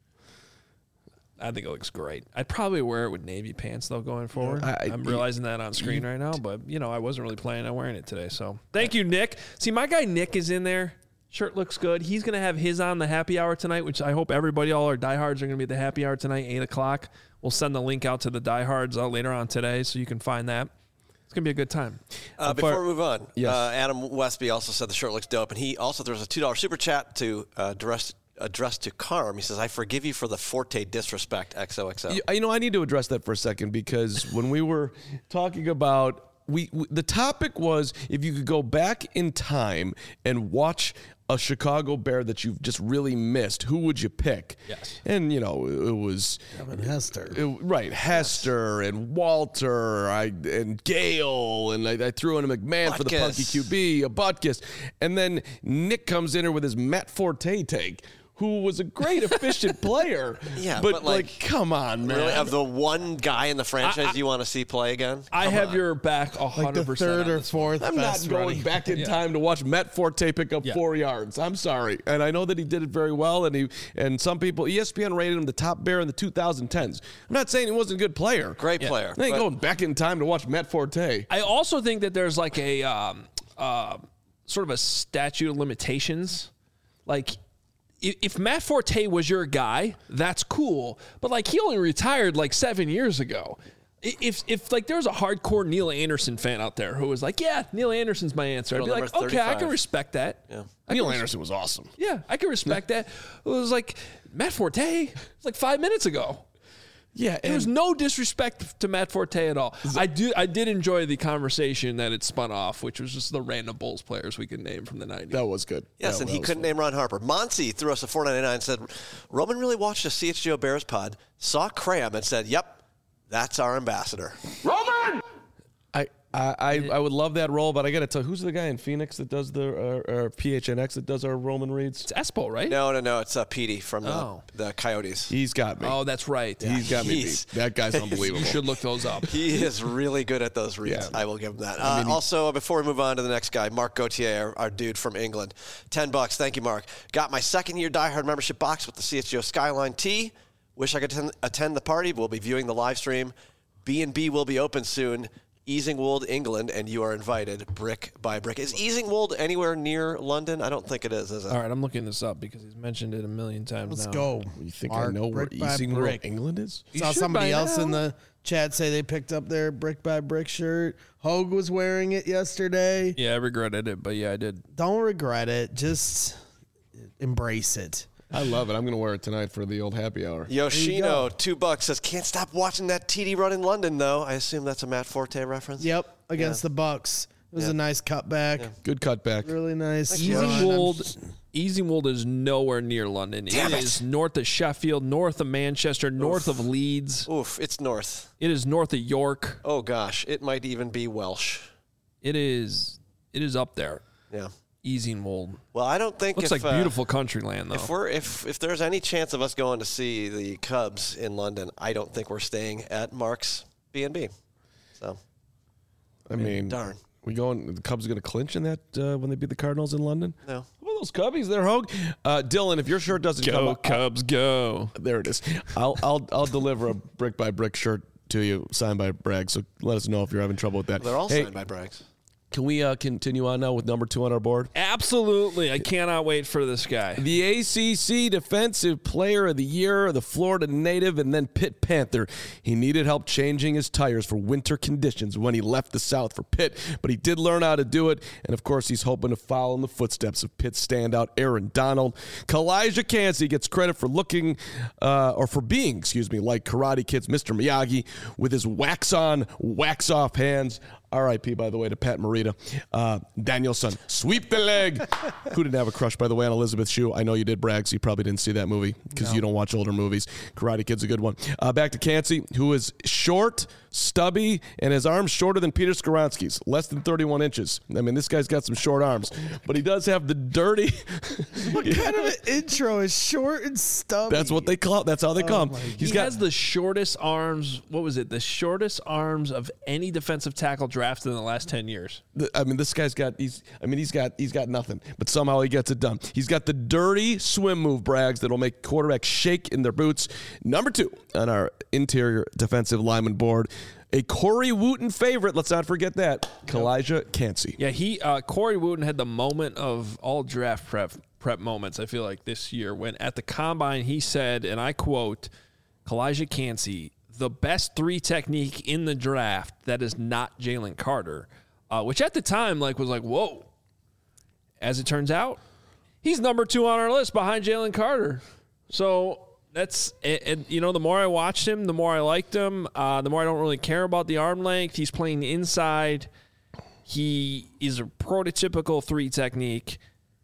I think it looks great. I'd probably wear it with navy pants though going forward. I- I'm realizing that on screen right now, but you know I wasn't really planning on wearing it today. So thank you, Nick. See, my guy Nick is in there. Shirt looks good. He's gonna have his on the happy hour tonight, which I hope everybody, all our diehards, are gonna be at the happy hour tonight, eight o'clock. We'll send the link out to the diehards uh, later on today, so you can find that. It's gonna be a good time. Uh, before we move on, Yes. uh, Adam Westby also said the shirt looks dope, and he also throws a two dollar super chat to uh, address addressed to Carm. He says, "I forgive you for the Forte disrespect." X O X O. You, you know, I need to address that for a second because when we were talking about we, we the topic was if you could go back in time and watch a Chicago Bear that you've just really missed, who would you pick? Yes. And you know, it, it was Kevin Hester. it- right, Hester and Walter, I and Gale, and I, I threw in a McMahon for the Butkus. punky Q B, a Butkus, and then Nick comes in here with his Matt Forte take. who was a great, efficient player. Yeah, but, but, like, like, come on, man. Really, of the one guy in the franchise I- I- you want to see play again? I Come have on. your back one Like hundred the percent. third on or this. fourth I'm best not going running. back in Yeah. time to watch Matt Forte pick up Yeah. four yards. I'm sorry, and I know that he did it very well. And he and some people, E S P N rated him the top bear in the twenty tens. I'm not saying he wasn't a good player. Great Yeah. player. I ain't but- going back in time to watch Matt Forte. I also think that there's like a um, uh, sort of a statute of limitations. Like, if, if Matt Forte was your guy, that's cool. But like, he only retired like seven years ago. I- If if like there was a hardcore Neil Anderson fan out there who was like, yeah, Neil Anderson's my answer, I'd Rule be like, number okay, I can thirty-five. respect that. Yeah. I can Neil res- Anderson was awesome. Yeah, I can respect that. It was like Matt Forte. It's like five minutes ago. Yeah, There was no disrespect to Matt Forte at all. I do. I did enjoy the conversation that it spun off, which was just the random Bulls players we could name from the nineties. that was good. Yes, That- and that he was couldn't fun. name Ron Harper. Monty threw us a four ninety-nine and said, Roman really watched a C H G O Bears pod, saw Cram, and said, yep, that's our ambassador. I, I, I, I would love that role, but I got to tell you, who's the guy in Phoenix that does the uh, or P H N X that does our Roman reads? It's Espo, right? No, no, no, it's uh, Petey from the, Oh. the Coyotes. He's got me. Oh, that's right. He's got me he's- beat. That guy's unbelievable. You should look those up. He is really good at those reads. Yeah. I will give him that. Uh, also, before we move on to the next guy, Mark Gauthier, our, our dude from England. Ten bucks. Thank you, Mark. Got my second year diehard membership box with the C H G O Skyline tee. Wish I could attend, attend the party. We'll be viewing the live stream. B and B will be open soon. Easingwold, England, and you are invited brick by brick. Is Easingwold anywhere near London? I don't think it is, is it? All right, I'm looking this up because he's mentioned it a million times Let's now. go. You think Mark, I know where brick by Easingwold, brick. England is? You Saw should somebody by else in now. the chat say they picked up their brick by brick shirt. Hogue was wearing it yesterday. Yeah, I regretted it, but yeah, I did. Don't regret it. Just embrace it. I love it. I'm going to wear it tonight for the old happy hour. Yoshino, two bucks, says, can't stop watching that T D run in London, though. I assume that's a Matt Forte reference. Yep, against the Bucks. It was Yeah. a nice cutback. Good cutback. Really nice. you. run. Easingwold, Easingwold is nowhere near London. Damn it it. is north of Sheffield, north of Manchester, north of Leeds. Oof, it's north. It is north of York. Oh, gosh, it might even be Welsh. It is. It is up there. Yeah. Easingwold. Well, I don't think Looks if, like uh, beautiful country land, though. If we're if if there's any chance of us going to see the Cubs in London, I don't think we're staying at Mark's B and B. So I mean, darn. We going? The Cubs are going to clinch in that uh, when they beat the Cardinals in London. No. Well, those Cubbies, they're Hogue. Uh, Dylan, if your shirt doesn't come, Go up, Cubs, go! there it is. I'll I'll I'll deliver a brick by brick shirt to you, signed by Bragg. So let us know if you're having trouble with that. They're all Hey, signed by Braggs. Can we uh, continue on now with number two on our board? Absolutely, I cannot wait for this guy. The A C C Defensive Player of the Year, the Florida native, and then Pitt Panther. He needed help changing his tires for winter conditions when he left the South for Pitt, but he did learn how to do it, and of course he's hoping to follow in the footsteps of Pitt standout Aaron Donald. Kalijah Kancey gets credit for looking, uh, or for being, excuse me, like Karate Kid's Mister Miyagi with his wax-on, wax-off hands. R I P, by the way, to Pat Morita. Uh, Danielson, sweep the leg. Who didn't have a crush, by the way, on Elizabeth Shue? I know you did, Bragg, so you probably didn't see that movie because you don't watch older movies. Karate Kid's a good one. Uh, back to Kancey, who is short, stubby, and his arms shorter than Peter Skoronski's, less than thirty-one inches. I mean, this guy's got some short arms, but he does have the dirty. What kind of an intro is short and stubby? That's what they call. That's how they call him. my He's he got has the shortest arms. What was it? The shortest arms of any defensive tackle drafted in the last ten years. The- I mean, this guy's got. He's. I mean, he's got. He's got nothing, but somehow he gets it done. He's got the dirty swim move, Braggs, that'll make quarterbacks shake in their boots. Number two on our interior defensive lineman board, a Corey Wooten favorite. Let's not forget that. Kalijah Kancey. Yeah, he uh, Corey Wooten had the moment of all draft prep prep moments. I feel like this year when at the combine he said, and I quote, "Kalijah Kancey, the best three technique in the draft that is not Jalen Carter," uh, which at the time like was like whoa. As it turns out, he's number two on our list behind Jalen Carter. So that's and, and you know the more I watched him, the more I liked him. Uh, the more I don't really care about the arm length. He's playing inside. He is a prototypical three technique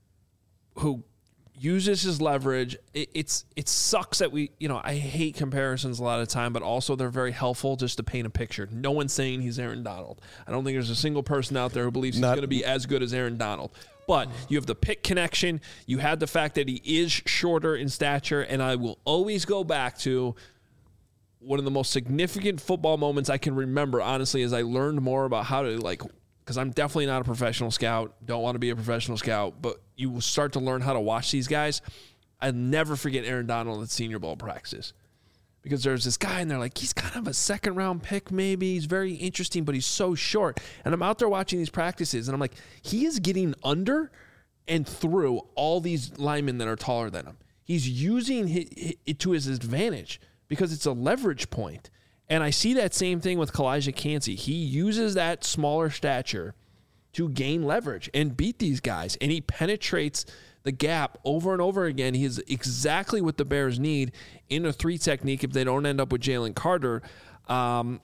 who uses his leverage. It, it's it sucks that we, you know, I hate comparisons a lot of the time, but also they're very helpful just to paint a picture. No one's saying he's Aaron Donald. I don't think there's a single person out there who believes he's Not- going to be as good as Aaron Donald. But you have the pick connection. You had the fact that he is shorter in stature, and I will always go back to one of the most significant football moments I can remember, honestly, as I learned more about how to, like, because I'm definitely not a professional scout, don't want to be a professional scout, but you will start to learn how to watch these guys. I'll never forget Aaron Donald at Senior Bowl practice. Because there's this guy, and they're like, he's kind of a second-round pick maybe. He's very interesting, but he's so short. And I'm out there watching these practices, and I'm like, he is getting under and through all these linemen that are taller than him. He's using it to his advantage because it's a leverage point. And I see that same thing with Kalijah Kancey. He uses that smaller stature to gain leverage and beat these guys, and he penetrates the gap over and over again. He is exactly what the Bears need in a three technique if they don't end up with Jalen Carter. Um,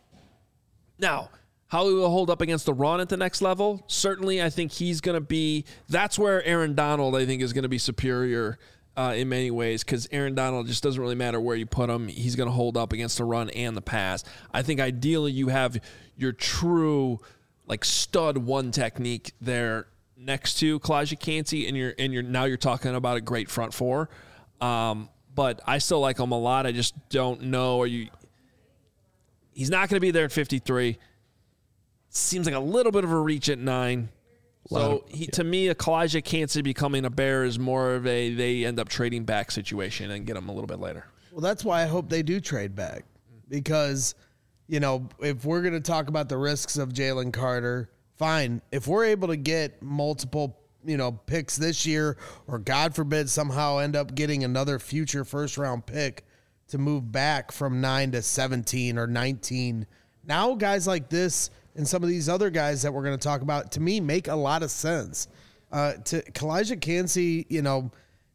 now, how he will hold up against the run at the next level, certainly I think he's going to be – that's where Aaron Donald, I think, is going to be superior uh, in many ways because Aaron Donald just doesn't really matter where you put him. He's going to hold up against the run and the pass. I think ideally you have your true like stud one technique there next to Kalijah Kancey, and you're and you're now you're talking about a great front four. Um, but I still like him a lot. I just don't know. Are you? He's not going to be there at fifty-three. Seems like a little bit of a reach at nine. So he, yeah. to me, a Kalijah Kancey becoming a Bear is more of a they end up trading back situation and get him a little bit later. Well, that's why I hope they do trade back because, you know, if we're going to talk about the risks of Jalen Carter, fine. If we're able to get multiple, you know, picks this year, or God forbid somehow end up getting another future first round pick to move back from nine to seventeen or nineteen, now guys like this and some of these other guys that we're going to talk about, to me, make a lot of sense. Uh, to Kalijah Kancey, you know,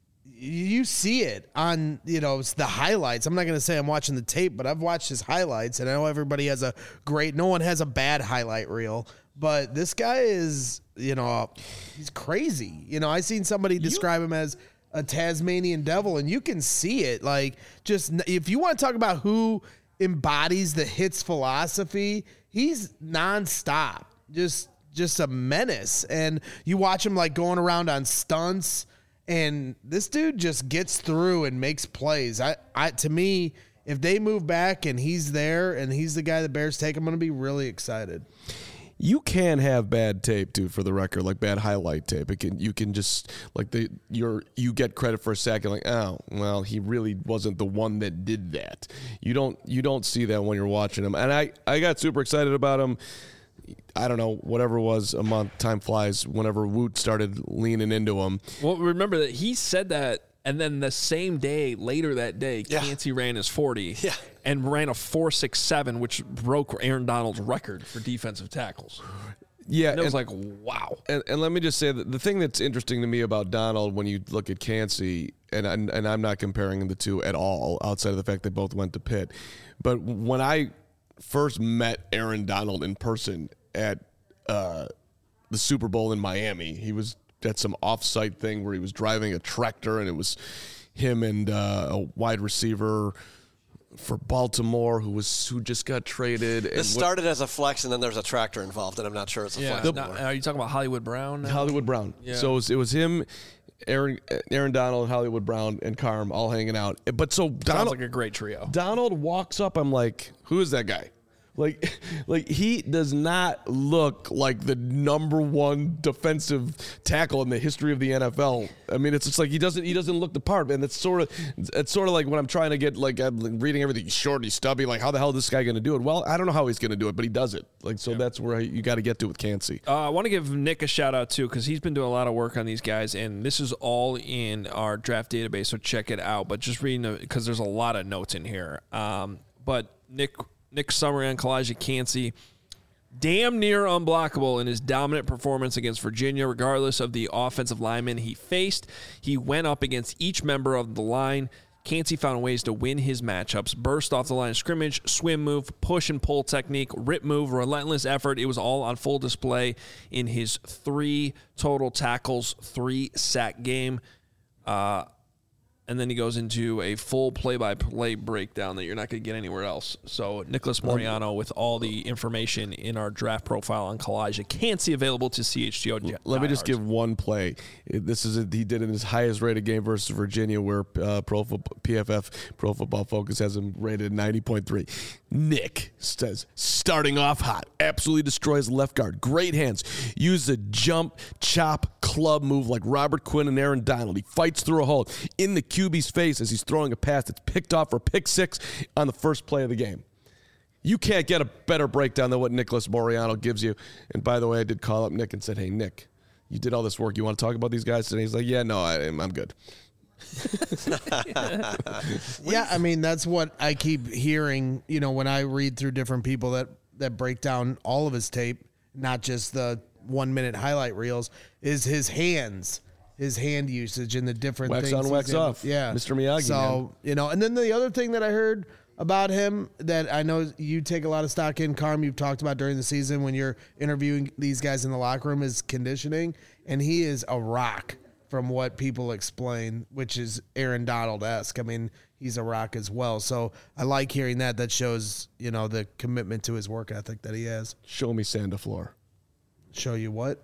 you see it on, you know, the highlights. I'm not going to say I'm watching the tape, but I've watched his highlights, and I know everybody has a great, no one has a bad highlight reel, but this guy is, you know, he's crazy. You know, I seen somebody describe him as a Tasmanian devil, and you can see it. Like, just if you want to talk about who embodies the hits philosophy, he's nonstop, just just a menace. And you watch him like going around on stunts, and this dude just gets through and makes plays. I, I to me, if they move back and he's there and he's the guy the Bears take, I'm going to be really excited. You can have bad tape, too, for the record, like bad highlight tape. It can, you can just, like, the you're, you get credit for a second, like, oh, well, he really wasn't the one that did that. You don't you don't see that when you're watching him. And I, I got super excited about him. I don't know, whatever it was, a month, time flies, whenever Woot started leaning into him. Well, remember that he said that, and then the same day, later that day, yeah. Kancey ran his forty. Yeah. And ran a four six seven, which broke Aaron Donald's record for defensive tackles. Yeah. And it was like, wow. And, and let me just say that the thing that's interesting to me about Donald when you look at Kancey, and, and, and I'm not comparing the two at all outside of the fact they both went to Pitt, but when I first met Aaron Donald in person at uh, the Super Bowl in Miami, he was at some off-site thing where he was driving a tractor, and it was him and uh, a wide receiver for Baltimore who was who just got traded. This and started what, as a flex, and then there's a tractor involved, and I'm not sure it's a yeah. flex. The, are you talking about Hollywood Brown now? Hollywood Brown. Yeah. So it was, it was him, Aaron Aaron Donald, Hollywood Brown, and Carm all hanging out. But so Donald, sounds like a great trio. Donald walks up. I'm like, who is that guy? Like, like he does not look like the number one defensive tackle in the history of the N F L. I mean, it's just like he doesn't he doesn't look the part, and it's sort of it's sort of like when I'm trying to get like I'm reading everything. He's short, he's stubby. Like, how the hell is this guy going to do it? Well, I don't know how he's going to do it, but he does it. Like, so yeah. That's where you got to get to with Kancey. Uh, I want to give Nick a shout out too because he's been doing a lot of work on these guys, and this is all in our draft database. So check it out. But just reading because there's a lot of notes in here. Um, but Nick. Nick's summary on Kalijah Kancey, damn near unblockable in his dominant performance against Virginia, regardless of the offensive lineman he faced. He went up against each member of the line. Kancey found ways to win his matchups, burst off the line of scrimmage, swim move, push and pull technique, rip move, relentless effort. It was all on full display in his three total tackles, three sack game. Uh, and then he goes into a full play-by-play breakdown that you're not going to get anywhere else. So Nicholas Moriano with all the information in our draft profile on Kalijah Cansey available to C H G O. Let me just give one play. This is a, he did in his highest rated game versus Virginia, where uh, Pro Football, P F F Pro Football Focus has him rated ninety point three. Nick says, starting off hot, absolutely destroys left guard. Great hands. Uses a jump, chop, club move like Robert Quinn and Aaron Donald. He fights through a hole in the Q B's face as he's throwing a pass that's picked off for pick six on the first play of the game. You can't get a better breakdown than what Nicholas Moriano gives you. And by the way, I did call up Nick and said, hey, Nick, you did all this work. You want to talk about these guys today? He's like, yeah, no, I, I'm good. Yeah, I mean, that's what I keep hearing, you know, when I read through different people that, that break down all of his tape, not just the one-minute highlight reels, is his hands, his hand usage and the different wax things. on, wax able, off. Yeah. Mister Miyagi, So, man. you know, and then the other thing that I heard about him that I know you take a lot of stock in, Carm, you've talked about during the season when you're interviewing these guys in the locker room, is conditioning, and he is a rock from what people explain, which is Aaron Donald-esque. I mean, he's a rock as well. So I like hearing that. That shows, you know, the commitment to his work ethic that he has. Show me Sanda Floor. Show you what?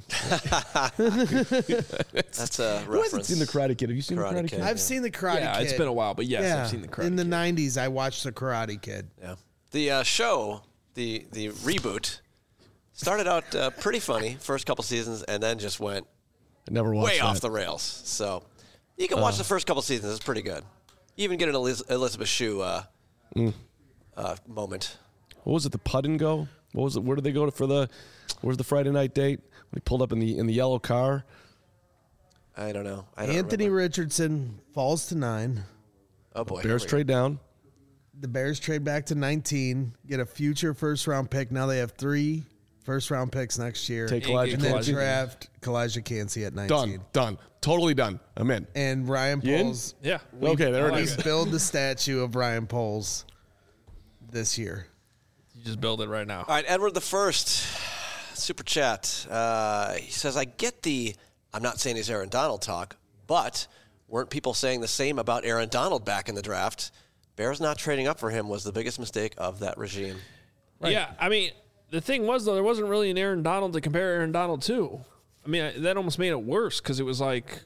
That's a Who hasn't reference. seen The Karate Kid? Have you seen Karate The Karate Kid. Kid? I've Yeah. seen the Karate Yeah, Kid. it's been a while, but yes, yeah. I've seen the Karate In the Kid. nineties, I watched the Karate Kid. Yeah. The uh, show, the the reboot, started out uh, pretty funny first couple seasons, and then just went I never watched way that. off the rails. So you can watch the first couple seasons; it's pretty good. You even get an Eliz- Elizabeth Shue uh, uh, moment. What was it? The Putt and Go? What was it? Where did they go to for the? Where's the Friday night date? When he pulled up in the in the yellow car. I don't know. I don't Anthony remember. Richardson falls to nine. Oh boy, Bears here we trade down. The Bears trade back to nineteen, get a future first round pick. Now they have three first round picks next year. Take And Kalijah and then Cansey. draft Kalijah Cansey at nineteen. Done. Done. Totally done. I'm in. And Ryan You in? Poles. Yeah. Okay, there it We is. build the statue of Ryan Poles this year. You just build it right now. All right, Edward the First, super chat. Uh, he says, "I get the. I'm not saying he's Aaron Donald talk, but weren't people saying the same about Aaron Donald back in the draft? Bears not trading up for him was the biggest mistake of that regime." Yeah, I mean, the thing was, though, there wasn't really an Aaron Donald to compare Aaron Donald to. I mean, I- that almost made it worse because it was like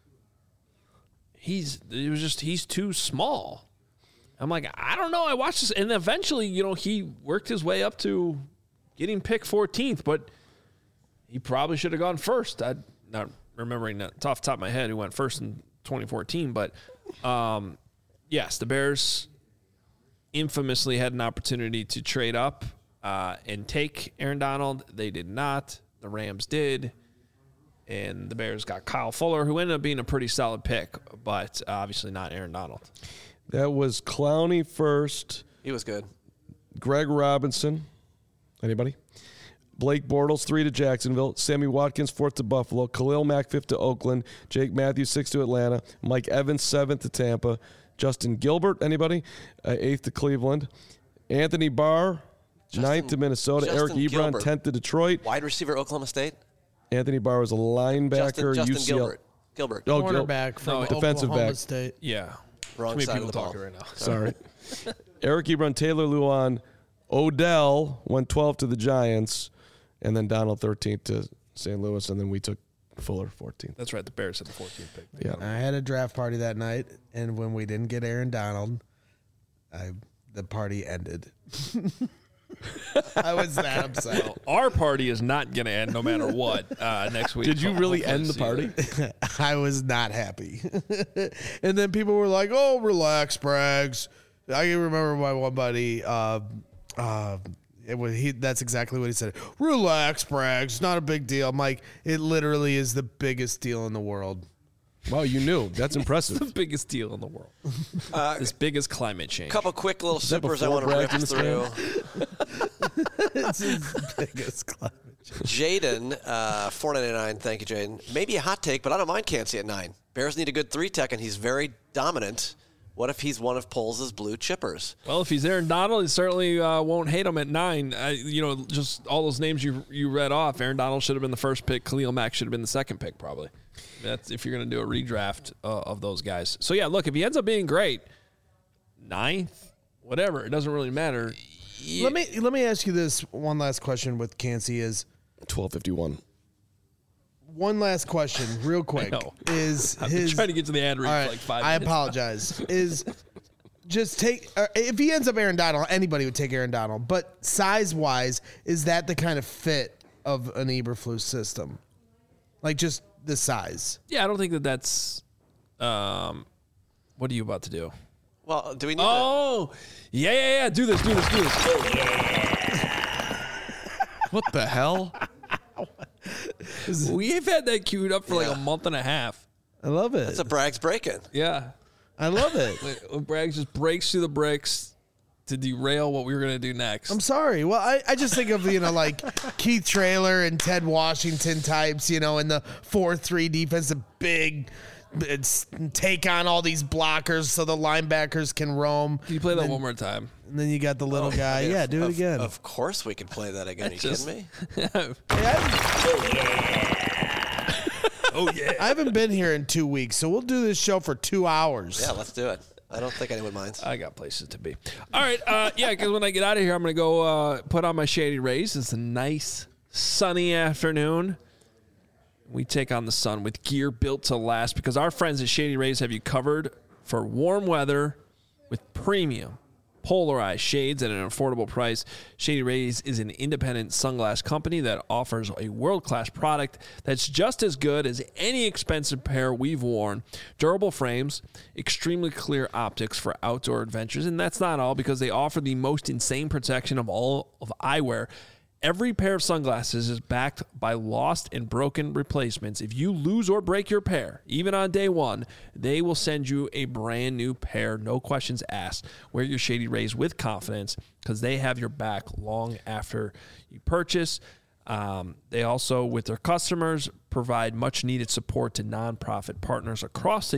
he's it was just he's too small. I'm like, I don't know. I watched this, and eventually, you know, he worked his way up to getting picked fourteenth, but he probably should have gone first. I'm not remembering that off the top of my head who went first in twenty fourteen, but um, yes, the Bears infamously had an opportunity to trade up uh, and take Aaron Donald. They did not. The Rams did. And the Bears got Kyle Fuller, who ended up being a pretty solid pick, but obviously not Aaron Donald. That was Clowney first. He was good. Greg Robinson. Anybody? Blake Bortles, three to Jacksonville. Sammy Watkins, fourth to Buffalo. Khalil Mack, fifth to Oakland. Jake Matthews, sixth to Atlanta. Mike Evans, seventh to Tampa. Justin Gilbert, anybody? Uh, eighth to Cleveland. Anthony Barr, Justin- ninth to Minnesota. Justin Eric Ebron, Gilbert. tenth to Detroit. Wide receiver, Oklahoma State. Anthony Barr was a linebacker. Justin, Justin U C L. Gilbert. Gilbert. Oh, Gil- Cornerback from No, defensive Oklahoma back. State. Yeah. Wrong Too many side people of the ball. talking right now. Sorry. Eric Ebron, Taylor Luan, Odell went twelve to the Giants, and then Donald thirteenth to Saint Louis, and then we took Fuller fourteenth. That's right. The Bears had the fourteenth pick. Yeah. I had a draft party that night, and when we didn't get Aaron Donald, I the party ended. I was that upset. Well, our party is not going to end no matter what uh, next week. Did you really Hopefully end the see party? that. I was not happy. And then people were like, "Oh, relax, Braggs." I can remember my one buddy. Uh, uh, it was he. That's exactly what he said. Relax, Braggs. It's not a big deal. I'm like, it literally is the biggest deal in the world. Wow, you knew. That's the impressive. biggest deal in the world. Uh, As big as climate change. couple quick little that supers I before want to rip Bragg in the through. It's his biggest climate. Jaden, uh, four ninety-nine. Thank you, Jaden. Maybe a hot take, but I don't mind Cansey at nine. Bears need a good three tech, and he's very dominant What if he's one of Poles' blue chippers? Well, if he's Aaron Donald, he certainly uh, won't hate him at nine. Uh, you know, just all those names you you read off. Aaron Donald should have been the first pick. Khalil Mack should have been the second pick, probably. That's if you're going to do a redraft uh, of those guys. So, yeah, look, if he ends up being great, ninth, whatever, it doesn't really matter. Let me let me ask you this one last question with Cansey is twelve fifty-one. One last question, real quick. know. Is I've his been trying to get to the ad read all for right, like five I minutes. apologize. Is just take uh, if he ends up Aaron Donald, anybody would take Aaron Donald. But size wise, is that the kind of fit of an Eberflus system? Like just the size. Yeah, I don't think that that's um, – what are you about to do? Well, do we need Oh, yeah, yeah, yeah. Do this, do this, do this. What the hell? We've had that queued up for like Yeah. a month and a half. I love it. It's a Bragg's break-in. Yeah. I love it. When Braggs just breaks through the bricks to derail what we were going to do next. I'm sorry. Well, I, I just think of, you know, like Keith Traylor and Ted Washington types, you know, in the four three defense, a big it's, take on all these blockers so the linebackers can roam. Can you play that then, one more time? And then you got the little Oh, guy. I mean, yeah, of- do it of- again. Of course we can play that again. Are you Just- kidding me? Oh, yeah. I haven't been here in two weeks, so we'll do this show for two hours. Yeah, let's do it. I don't think anyone minds. I got places to be. All right. Uh, yeah, because when I get out of here, I'm going to go uh, put on my Shady Rays. It's a nice, sunny afternoon. We take on the sun with gear built to last because our friends at Shady Rays have you covered for warm weather with premium polarized shades at an affordable price. Shady Rays is an independent sunglass company that offers a world-class product that's just as good as any expensive pair we've worn. Durable frames, extremely clear optics for outdoor adventures, and that's not all because they offer the most insane protection of all of eyewear. Every pair of sunglasses is backed by lost and broken replacements. If you lose or break your pair, even on day one, they will send you a brand new pair, no questions asked. Wear your Shady Rays with confidence because they have your back long after you purchase. Um, they also, with their customers, provide much-needed support to nonprofit partners across the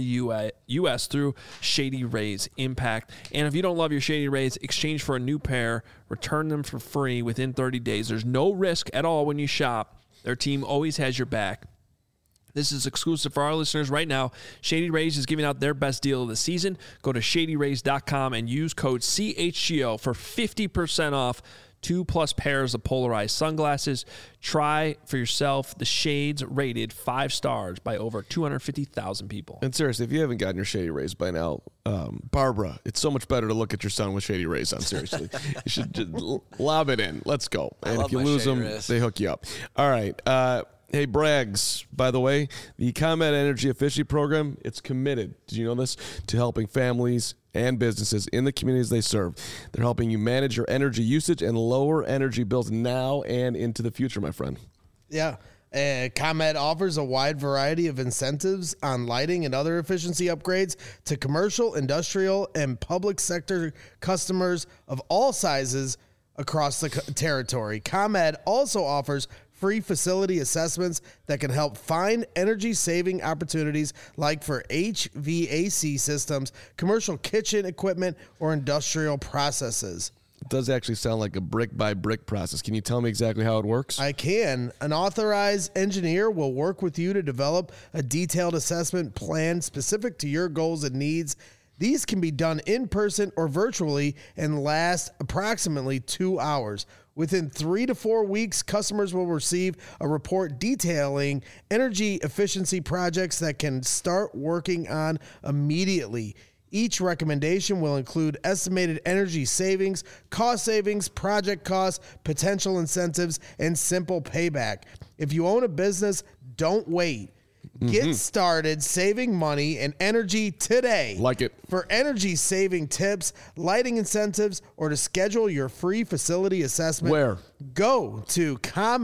U S through Shady Rays Impact. And if you don't love your Shady Rays, exchange for a new pair, return them for free within thirty days. There's no risk at all when you shop. Their team always has your back. This is exclusive for our listeners right now. Shady Rays is giving out their best deal of the season. Go to shady rays dot com and use code C H G O for fifty percent off two plus pairs of polarized sunglasses. Try for yourself the shades rated five stars by over two hundred fifty thousand people. And seriously, if you haven't gotten your Shady Rays by now, um, Barbara, it's so much better to look at your son with Shady Rays on. Seriously, you should just l- lob it in. Let's go. And love if you my lose Shady them, Rays. they hook you up. All right. Uh, hey, Braggs, by the way, the ComEd Energy Efficiency Program, it's committed, did you know this, to helping families and businesses in the communities they serve. They're helping you manage your energy usage and lower energy bills now and into the future, my friend. Yeah. Uh, ComEd offers a wide variety of incentives on lighting and other efficiency upgrades to commercial, industrial, and public sector customers of all sizes across the co- territory. ComEd also offers free facility assessments that can help find energy-saving opportunities like for H V A C systems, commercial kitchen equipment, or industrial processes. It does actually sound like a brick-by-brick process. Can you tell me exactly how it works? I can. An authorized engineer will work with you to develop a detailed assessment plan specific to your goals and needs. These can be done in person or virtually and last approximately two hours. Within three to four weeks, customers will receive a report detailing energy efficiency projects that can start working on immediately. Each recommendation will include estimated energy savings, cost savings, project costs, potential incentives, and simple payback. If you own a business, don't wait. Get started saving money and energy today. Like it. For energy saving tips, lighting incentives, or to schedule your free facility assessment, Where? go to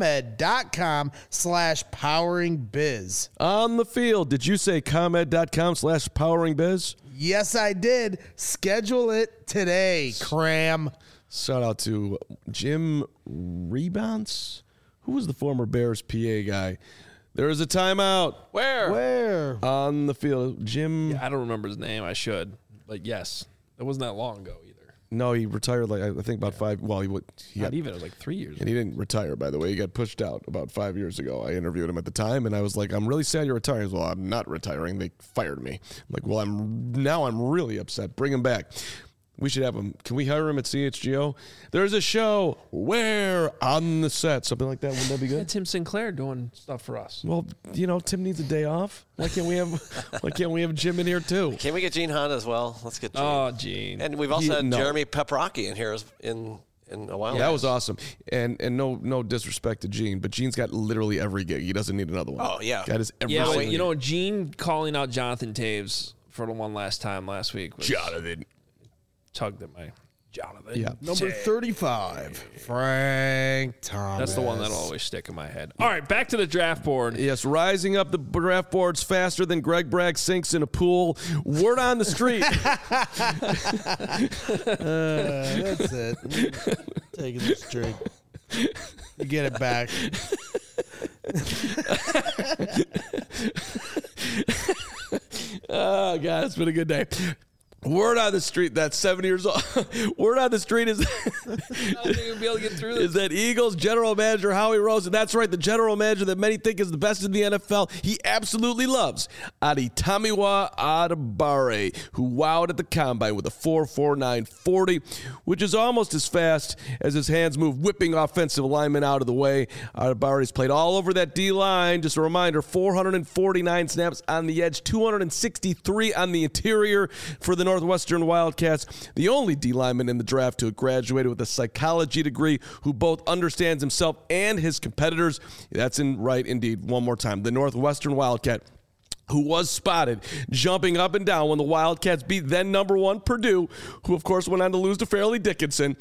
ComEd.com slash powering biz. On the field, did you say ComEd.com slash powering biz? Yes, I did. Schedule it today, cram. Shout out to Jim Rebounds. Who was the former Bears P A guy? There is a timeout Where? Where? on the field. Jim. I don't remember his name. I should. But yes, it wasn't that long ago either. No, he retired like I think about five. Well, he would. He Not got, even. It was like three years. and he didn't retire, by the way. He got pushed out about five years ago. I interviewed him at the time, and I was like, "I'm really sad you're retiring." He goes, well, I'm not retiring. They fired me. I'm like, "Well, I'm now I'm really upset. Bring him back." We should have him. Can we hire him at C H G O? There's a show where on the set, something like that. Wouldn't that be Yeah, good? Tim Sinclair doing stuff for us. Well, you know, Tim needs a day off. Why can't we have? Why can't we have Jim in here too? Can we get Gene Hunt as well? Let's get Gene. Oh, Gene. And we've also He- had no. Jeremy Peprocki in here as- in in a while. That was awesome. And and no no disrespect to Gene, but Gene's got literally every gig. He doesn't need another one. Oh, yeah. Got his every yeah, but single you gig. know, Gene calling out Jonathan Taves for the one last time last week was Jonathan. tugged at my Jonathan. Yeah. Number thirty-five, Frank Thomas. That's the one that'll always stick in my head. All right, back to the draft board. Yes, rising up the draft boards faster than Greg Bragg sinks in a pool. Word on the street. Uh, that's it. Taking the streak. You get it back. Oh, God, it's been a good day. Word on the street, that's seven years old. Word on the street is, I don't think we'll be able to get through is this. that Eagles general manager Howie Roseman, that's right, the general manager that many think is the best in the N F L, he absolutely loves Adetomiwa Adebawore, who wowed at the combine with a four forty-nine forty, which is almost as fast as his hands move, whipping offensive linemen out of the way. Adebayore's played all over that D-line. Just a reminder, four hundred forty-nine snaps on the edge, two hundred sixty-three on the interior for the Northwestern Wildcats, the only D lineman in the draft to have graduated with a psychology degree who both understands himself and his competitors. That's in right indeed. One more time. The Northwestern Wildcat, who was spotted jumping up and down when the Wildcats beat then number one Purdue, who of course went on to lose to Fairleigh Dickinson.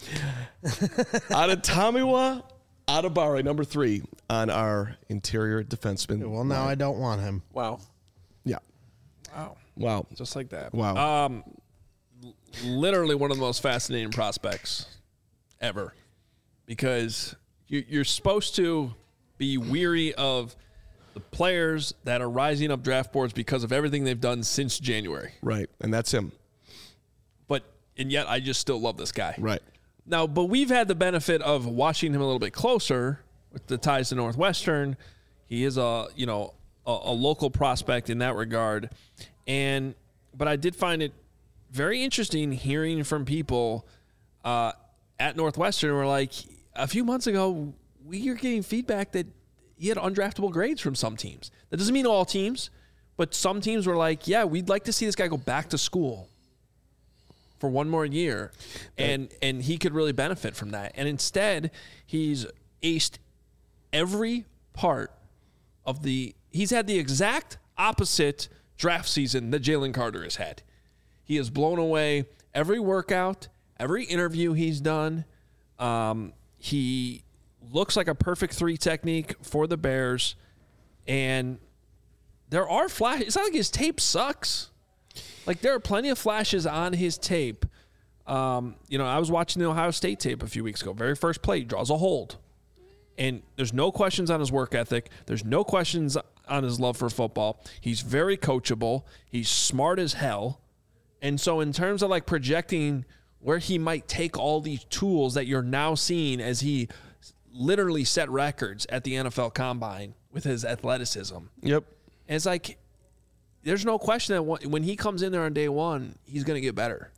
Adetomiwa Adebawore, number three on our interior defenseman. Well, now I don't want him. Wow. Yeah. Wow. Wow. Just like that. Wow. Um, l- literally one of the most fascinating prospects ever, because you, you're supposed to be weary of the players that are rising up draft boards because of everything they've done since January. Right. And that's him. But and yet I just still love this guy. Right. Now, but we've had the benefit of watching him a little bit closer with the ties to Northwestern. He is a you know a, a local prospect in that regard. And but I did find it very interesting hearing from people uh, at Northwestern who were like, a few months ago, we are getting feedback that he had undraftable grades from some teams. That doesn't mean all teams, but some teams were like, yeah, we'd like to see this guy go back to school for one more year, and and he could really benefit from that. And instead, he's aced every part of the – he's had the exact opposite – draft season that Jalen Carter has had. He has blown away every workout, every interview he's done. Um, he looks like a perfect three technique for the Bears. And there are flashes. It's not like his tape sucks. Like, there are plenty of flashes on his tape. Um, you know, I was watching the Ohio State tape a few weeks ago. Very first play, he draws a hold. And there's no questions on his work ethic. There's no questions on his love for football. He's very coachable. He's smart as hell. And so in terms of like projecting where he might take all these tools that you're now seeing as he literally set records at the N F L Combine with his athleticism. Yep. And it's like, there's no question that when he comes in there on day one, he's going to get better.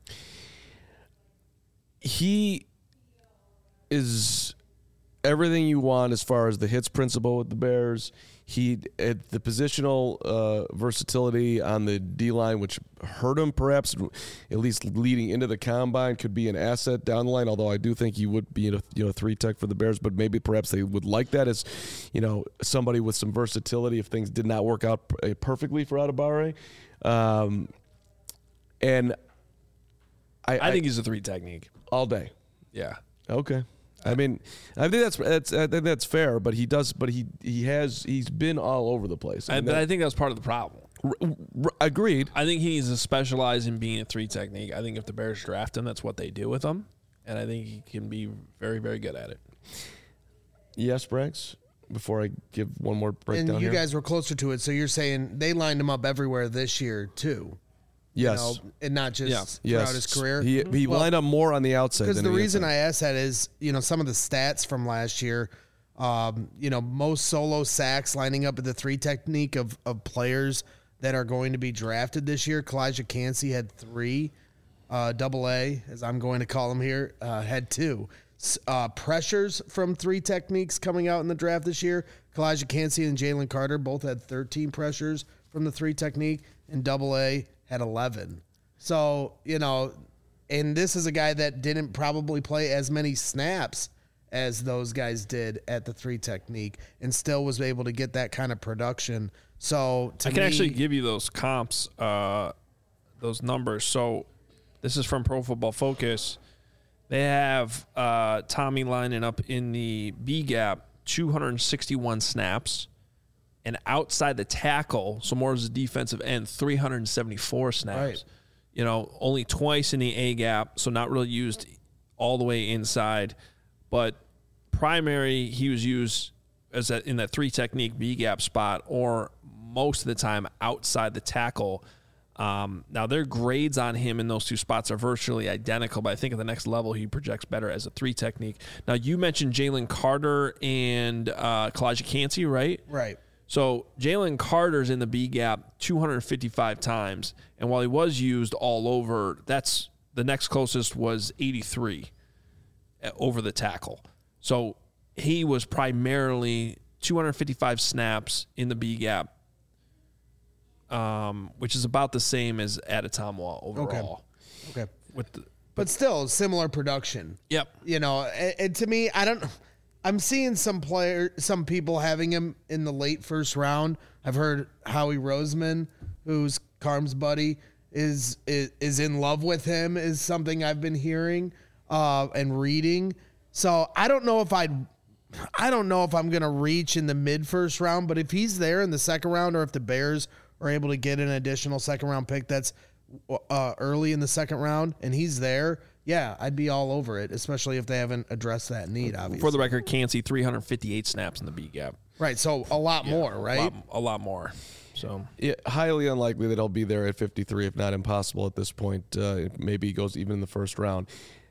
He is everything you want as far as the hits principle with the Bears. He at the positional uh, versatility on the D-line, which hurt him perhaps, at least leading into the combine, could be an asset down the line. Although I do think he would be a you know three tech for the Bears, but maybe perhaps they would like that as you know somebody with some versatility if things did not work out perfectly for Adebawore. Um, and I, I think he's a three technique. all day. Yeah. Okay. I mean, I think that's that's I think that's fair, but he does, but he he has he's been all over the place. I, mean, but that- I think that's part of the problem. r- r- agreed. I think he needs to specialize in being a three technique. I think if the Bears draft him, that's what they do with him. And I think he can be very, very good at it. Yes, Branks. Before I give one more breakdown And you here. guys were closer to it, so you're saying they lined him up everywhere this year too. Yes. You know, and not just Yeah. throughout Yes. his career. He, he Well, lined up more on the outside Because than the the reason inside. I asked that is, you know, some of the stats from last year, um, you know, most solo sacks lining up at the three technique of, of players that are going to be drafted this year. Kalijah Cansey had three. Uh, double A, as I'm going to call him here, uh, had two. S- Uh, pressures from three techniques coming out in the draft this year. Kalijah Cansey and Jalen Carter both had thirteen pressures from the three technique, and double A had eleven. So, you know, and this is a guy that didn't probably play as many snaps as those guys did at the three technique and still was able to get that kind of production. So to I can me, actually give you those comps, uh, those numbers. So this is from Pro Football Focus. They have uh, Tommy lining up in the B gap, two hundred sixty-one snaps, and outside the tackle, so more as a defensive end, three hundred seventy-four snaps. Right. You know, only twice in the A gap, so not really used all the way inside. But primary, he was used as that in that three technique B gap spot, or most of the time outside the tackle. Um, now their grades on him in those two spots are virtually identical, but I think at the next level he projects better as a three technique. Now you mentioned Jalen Carter and uh, Kalijah Cansey, right? right. So Jalen Carter's in the B gap two hundred fifty-five times, and while he was used all over, that's the next closest was eighty-three over the tackle. So he was primarily two hundred fifty-five snaps in the B gap, um, which is about the same as Adetomiwa overall. Okay. With the, But still, similar production. yep. You know, and, and to me, I don't. I'm seeing some player, some people having him in the late first round. I've heard Howie Roseman, who's Carm's buddy, is is, is in love with him. Is something I've been hearing uh, and reading. So I don't know if I'd. I don't know if I'm gonna reach in the mid first round, but if he's there in the second round, or if the Bears are able to get an additional second round pick that's uh, early in the second round, and he's there, yeah, I'd be all over it, especially if they haven't addressed that need, obviously. For the record, Cansey three hundred fifty-eight snaps in the B gap. Right, so a lot more, A right? lot, a lot more. So Yeah, highly unlikely that he'll be there at fifty-three, if not impossible at this point. Uh, maybe he goes even in the first round.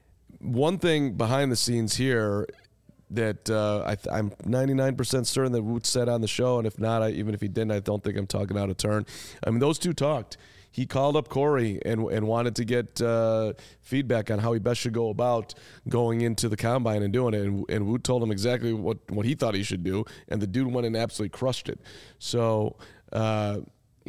One thing behind the scenes here that uh, I th- I'm ninety-nine percent certain that Woot said on the show, and if not, I, even if he didn't, I don't think I'm talking out of turn. I mean, those two talked. He called up Corey and and wanted to get uh, feedback on how he best should go about going into the combine and doing it. And, and Woot told him exactly what, what he thought he should do, and the dude went and absolutely crushed it. So uh,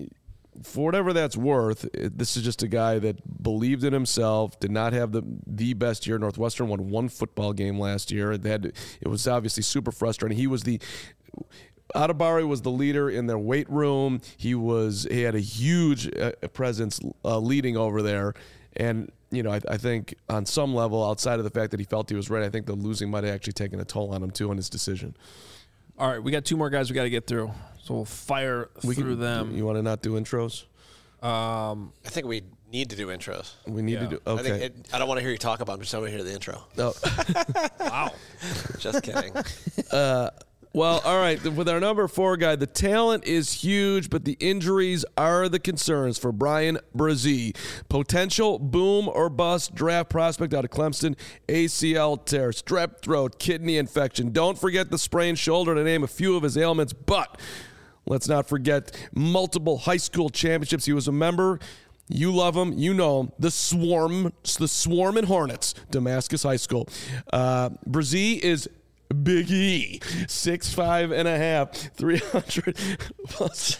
for whatever that's worth, it, this is just a guy that believed in himself, did not have the the best year. Northwestern won one football game last year. It, had, it was obviously super frustrating. He was the... Adebari was the leader in their weight room. He was he had a huge uh, presence uh, leading over there, and you know I, I think on some level, outside of the fact that he felt he was ready, I think the losing might have actually taken a toll on him too in his decision. all right, we got two more guys we got to get through, so we'll fire We through can, them. You want to not do intros? Um, I think we need to do intros. We need Yeah. to do. I, think Okay. it, I don't want to hear you talk about them, just I want to hear the intro. No. wow. Just kidding. Well, all right. With our number four guy, the talent is huge, but the injuries are the concerns for Brian Brzee. Potential boom or bust draft prospect out of Clemson, A C L tear, strep throat, kidney infection. Don't forget the sprained shoulder, to name a few of his ailments, but let's not forget multiple high school championships. He was a member. You love him. You know him. The Swarm, the Swarm and Hornets, Damascus High School. Uh, Brzee is Big E, six five and a half, three hundred plus,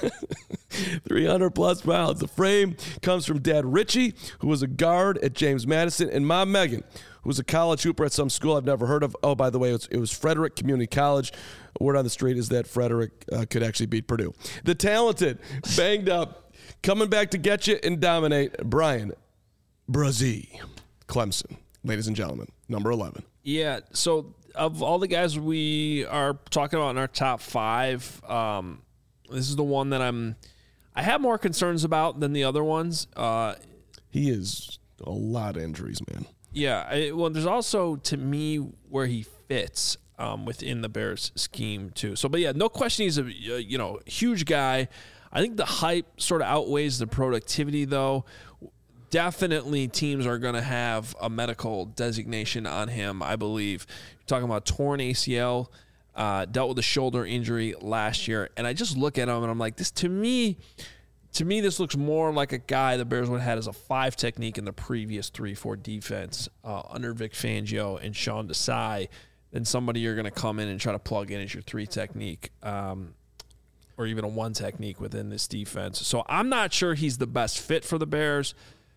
three hundred plus pounds. The frame comes from Dad Richie, who was a guard at James Madison, and Mom Megan, who was a college hooper at some school I've never heard of. Oh, by the way, it was, it was Frederick Community College. Word on the street is that Frederick uh, could actually beat Purdue. The talented, banged up, coming back to get you and dominate, Brian Brzee, Clemson. Ladies and gentlemen, number eleven. Yeah, so of all the guys we are talking about in our top five, um, this is the one that I'm I have more concerns about than the other ones. Uh, He is a lot of injuries, man. yeah, I, well, there's also to me where he fits um, within the Bears scheme too. So, but yeah, no question, he's a uh, you know huge guy. I think the hype sort of outweighs the productivity, though. Definitely teams are going to have a medical designation on him, I believe. You're talking about torn A C L, uh, dealt with a shoulder injury last year. And I just look at him and I'm like, this to me, to me, this looks more like a guy the Bears would have had as a five technique in the previous three four defense uh, under Vic Fangio and Sean Desai than somebody you're going to come in and try to plug in as your three technique um, or even a one technique within this defense. So I'm not sure he's the best fit for the Bears.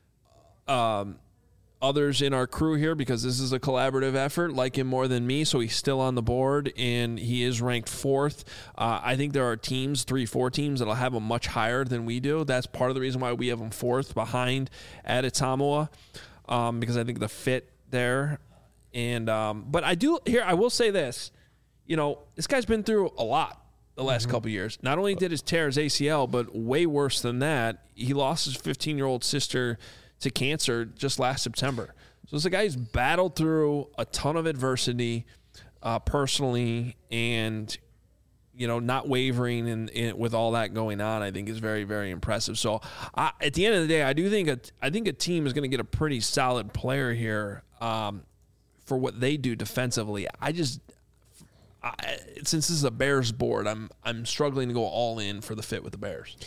Um, others in our crew here, because this is a collaborative effort, like him more than me, so he's still on the board, and he is ranked fourth. Uh, I think there are teams, three, four teams, that'll have him much higher than we do. That's part of the reason why we have him fourth behind Adetomiwa, um, because I think the fit there. And um, but I do here. I will say this, you know, this guy's been through a lot the last mm-hmm. couple of years. Not only did his tear his A C L, but way worse than that, he lost his fifteen-year-old sister to cancer just last September. So this is a guy who's battled through a ton of adversity uh, personally, and you know, not wavering in, in with all that going on, I think is very, very impressive. So I, at the end of the day, I do think a, I think a team is going to get a pretty solid player here um, for what they do defensively. I just I, since this is a Bears board, I'm I'm struggling to go all in for the fit with the Bears.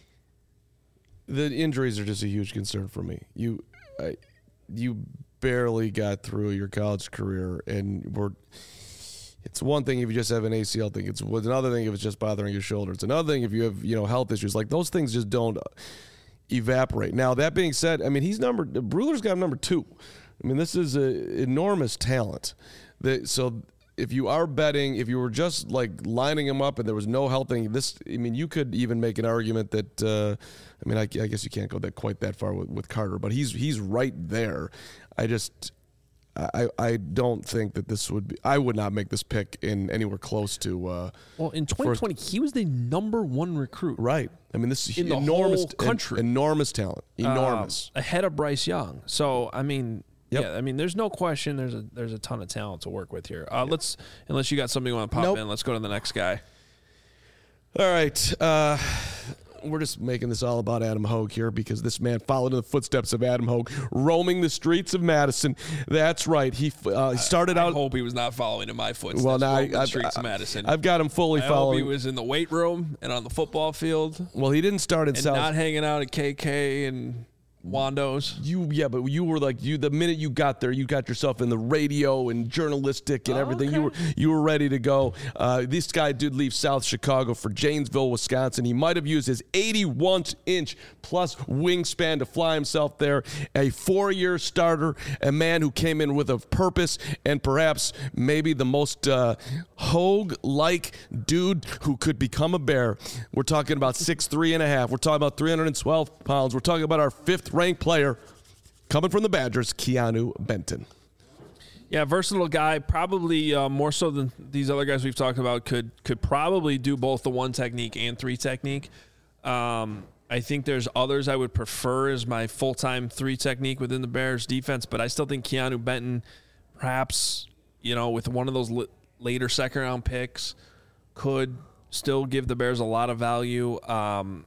The injuries are just a huge concern for me. You, I, you barely got through your college career, and we're. It's one thing if you just have an A C L thing. It's another thing if it's just bothering your shoulder. It's another thing if you have, you know, health issues. Like, those things just don't evaporate. Now, that being said, I mean, he's number. Bruller's got him number two. I mean, this is an enormous talent. That so. If you are betting, if you were just like lining him up and there was no health thing, this, I mean, you could even make an argument that, uh, I mean, I, I guess you can't go that quite that far with, with Carter, but he's he's right there. I just, I I don't think that this would be, I would not make this pick in anywhere close to. Uh, well, in twenty twenty, first, he was the number one recruit. Right. I mean, this is in enormous, the whole country. En, enormous talent. Enormous. Uh, ahead of Bryce Young. So, I mean. Yep. Yeah, I mean, there's no question. There's a there's a ton of talent to work with here. Uh, yep. Let's unless you got something you want to pop nope. in, let's go to the next guy. All right, uh, we're just making this all about Adam Hogue here because this man followed in the footsteps of Adam Hogue, roaming the streets of Madison. That's right. He uh, started I, I out. I hope he was not following in my footsteps. Well, now I, I, the streets I, of Madison. I've got him fully I following. Hope he was in the weight room and on the football field. Well, he didn't start in and South. Not hanging out at K K and Wando's. You yeah, but you were like you the minute you got there, you got yourself in the radio and journalistic and oh, everything. Okay. You were you were ready to go. Uh, this guy did leave South Chicago for Janesville, Wisconsin. He might have used his eighty-one inch plus wingspan to fly himself there. A four-year starter, a man who came in with a purpose, and perhaps maybe the most uh, Hogue-like dude who could become a Bear. We're talking about six three and a half. We're talking about three hundred twelve pounds. We're talking about our fifth ranked player coming from the Badgers, Keanu Benton. Yeah, versatile guy, probably uh, more so than these other guys we've talked about, could could probably do both the one technique and three technique. Um, I think there's others I would prefer as my full-time three technique within the Bears defense, but I still think Keanu Benton, perhaps, you know, with one of those l- later second-round picks, could still give the Bears a lot of value. Um,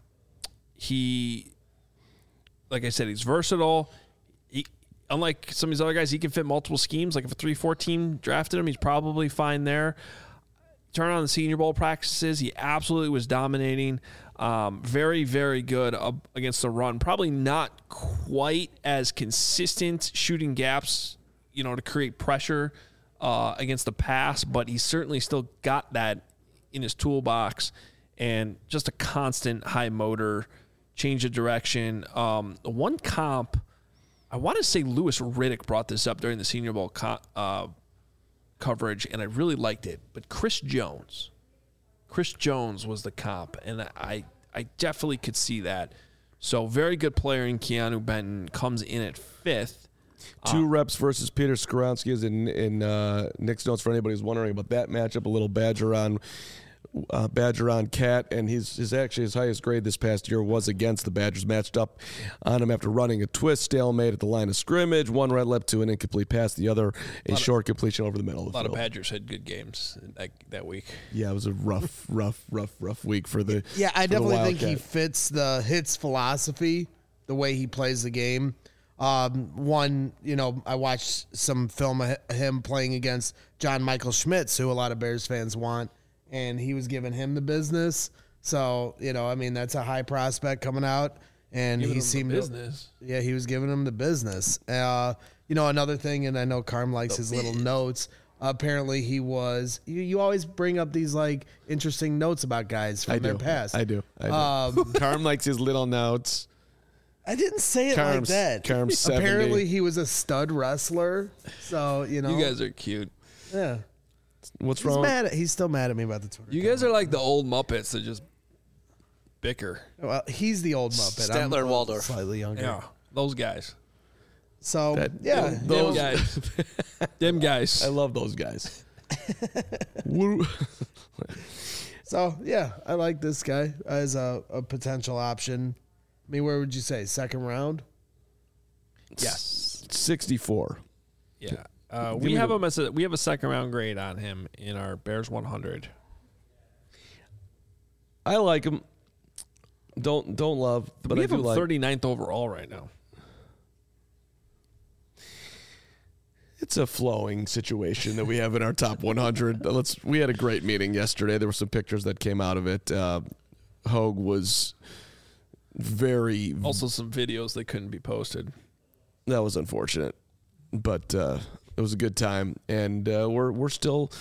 he... Like I said, he's versatile. He, unlike some of these other guys, he can fit multiple schemes. Like if a three four team drafted him, he's probably fine there. Turn on the Senior Bowl practices. He absolutely was dominating. Um, very, very good uh, against the run. Probably not quite as consistent shooting gaps, you know, to create pressure uh, against the pass, but he certainly still got that in his toolbox. And just a constant high motor, change of direction. Um, one comp, I want to say Louis Riddick brought this up during the Senior Bowl co- uh, coverage, and I really liked it. But Chris Jones, Chris Jones was the comp, and I, I definitely could see that. So very good player in Keanu Benton, comes in at fifth. Two uh, reps versus Peter Skoronski is in, in uh, Nick's notes for anybody who's wondering about that matchup. A little Badger on uh, Badger on Cat, and his, his actually his highest grade this past year was against the Badgers. Matched up on him after running a twist stalemate at the line of scrimmage. One red lip to an incomplete pass, the other a, a short of, completion over the middle of the field. A lot field. of Badgers had good games that, that week. Yeah, it was a rough, rough, rough, rough week for the Yeah, I for the definitely think he Wildcat. fits the hits philosophy, the way he plays the game. Um, one, you know, I watched some film of him playing against John Michael Schmitz, who a lot of Bears fans want, and he was giving him the business. So, you know, I mean, that's a high prospect coming out, and Giving he him the seemed business. To, yeah, he was giving him the business. Uh, you know, another thing, and I know Carm likes his little notes. Apparently, he was. You, you always bring up these like interesting notes about guys from I their do. past. I do. I do. Um, Carm likes his little notes. I didn't say it Carm's- like that. Carm's seventy. Apparently, he was a stud wrestler. So you know, You guys are cute. yeah. What's He's wrong? mad at. He's still mad at me about the Twitter. You guys are like the old Muppets that just bicker. Well, he's the old Muppet. I'm Statler and Waldorf. slightly younger. Yeah, those guys. So That- yeah, those- Them guys. Them guys. I love those guys. Woo. so yeah, I like this guy as a, a potential option. I mean, where would you say second round? Yes. sixty-four. Yeah. Uh, Give we me have the- him as a we have a second round grade on him in our Bears one hundred. I like him. Don't don't love, but we I have do him like. thirty-ninth overall right now. It's a flowing situation that we have in our top one hundred. Let's. We had a great meeting yesterday. There were some pictures that came out of it. Uh, Hogue was very. Also, some videos that couldn't be posted. That was unfortunate, but uh, it was a good time, and uh, we're we're still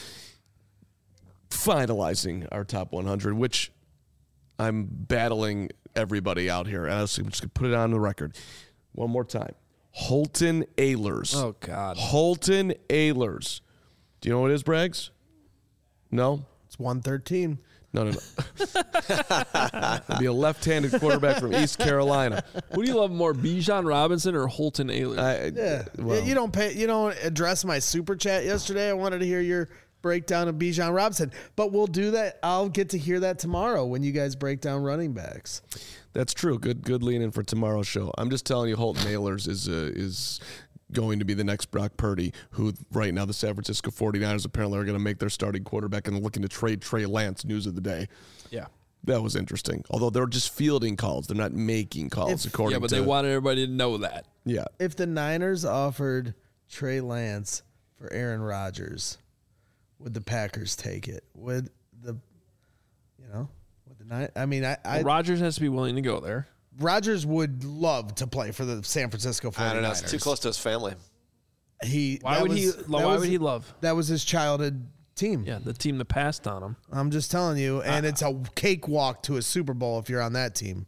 finalizing our top one hundred, which I'm battling everybody out here. And I was just gonna put it on the record one more time. Holton Ahlers. Oh God. Holton Ahlers. Do you know what it is, Braggs? No? It's one thirteen. No, no, no. It'll be a left-handed quarterback from East Carolina. Who do you love more, Bijan Robinson or Holton Ahlers? I, Yeah, well, you don't pay. You don't address my super chat yesterday. I wanted to hear your breakdown of Bijan Robinson, but we'll do that. I'll get to hear that tomorrow when you guys break down running backs. that's true. Good, good lean in for tomorrow's show. I'm just telling you, Holton Ahlers is uh, is going to be the next Brock Purdy, who right now the San Francisco forty-niners apparently are going to make their starting quarterback and looking to trade Trey Lance. News of the day. yeah. That was interesting. Although they're just fielding calls, they're not making calls. If- according Yeah, but to they wanted everybody to know that. yeah. If the Niners offered Trey Lance for Aaron Rodgers, would the Packers take it? Would the, you know, would the Niners? I mean, I, I Well, Rodgers has to be willing to go there. Rodgers would love to play for the San Francisco forty-niners. I don't know. It's too close to his family. He Why that would was- he? that Why was- would he love? That was his childhood team. Yeah, the team that passed on him. I'm just telling you, and it's a cakewalk to a Super Bowl if you're on that team.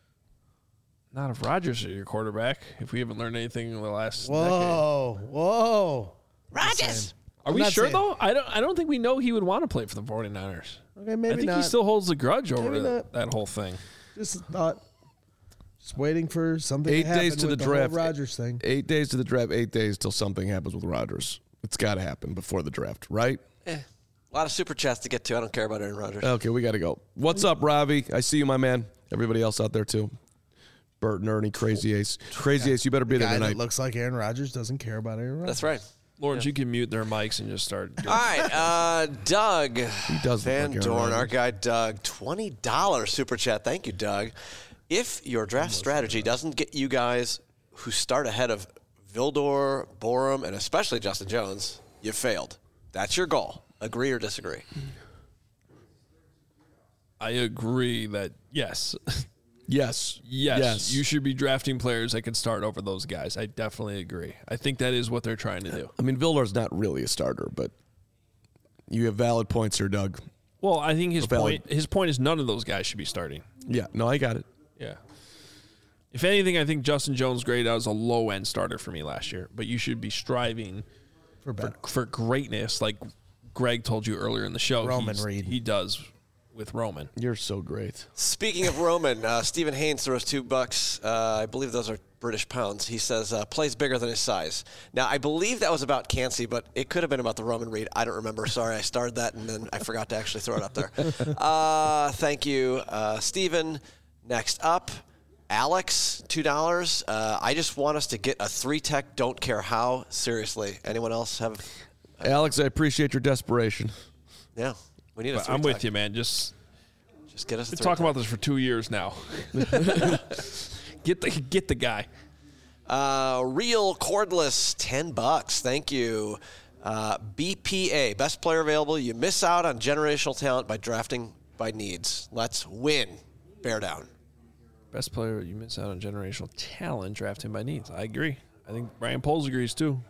Not if Rodgers is your quarterback. If we haven't learned anything in the last decade. Whoa, whoa. Rodgers. Are I'm we not sure saying- though? I don't. I don't think we know he would want to play for the forty-niners. Okay, I maybe think not. he still holds a grudge over Maybe that, not. that whole thing. Just thought. Just waiting for something Eight to happen days to with the whole draft. Rodgers thing. Eight days to the draft. Eight days till something happens with Rodgers. It's got to happen before the draft, right? Eh, a lot of super chats to get to. I don't care about Aaron Rodgers. Okay, we got to go. What's up, Ravi? I see you, my man. Everybody else out there too. Bert and Ernie, Crazy Ace, Crazy Ace. You better be there Guy tonight. that looks like Aaron Rodgers doesn't care about Aaron Rodgers. That's right. Lawrence, you can mute their mics and just start. All right, uh, Doug He does look Van like Aaron Dorn, our Rodgers. guy Doug, twenty dollars super chat. Thank you, Doug. If your draft strategy doesn't get you guys who start ahead of Vildor, Borum, and especially Justin Jones, you failed. That's your goal. Agree or disagree? I agree that yes, Yes. yes, Yes. you should be drafting players that can start over those guys. I definitely agree. I think that is what they're trying to do. I mean, Vildar's not really a starter, but you have valid points here, Doug. Well, I think his Valid. point. His point is none of those guys should be starting. Yeah. No, I got it. Yeah. If anything, I think Justin Jones graded out as a low end starter for me last year. But you should be striving For for, better. for greatness, like Greg told you earlier in the show. Roman He's- Reed. He does with Roman. You're so great. Speaking of Roman, uh, Stephen Haynes throws two bucks. Uh, I believe those are British pounds. He says, uh, plays bigger than his size. Now, I believe that was about Cansey, but it could have been about the Roman Reed. I don't remember. Sorry, I started that, and then I forgot to actually throw it up there. Uh, thank you, uh, Steven. Next up, Alex, two dollars. Uh, I just want us to get a three-tech, don't care how. Seriously. Anyone else have? Alex, I appreciate your desperation. Yeah, we need a three-tech. I'm with you, man. Just, just get us a been three-tech. talking about this for two years now. Get the get the guy. Uh, Real Cordless, ten bucks. Thank you. Uh, B P A, best player available. You miss out on generational talent by drafting by needs. Let's win. Bear down. Best player, you miss out on generational talent, drafting by needs. I agree. I think Brian Poles agrees too.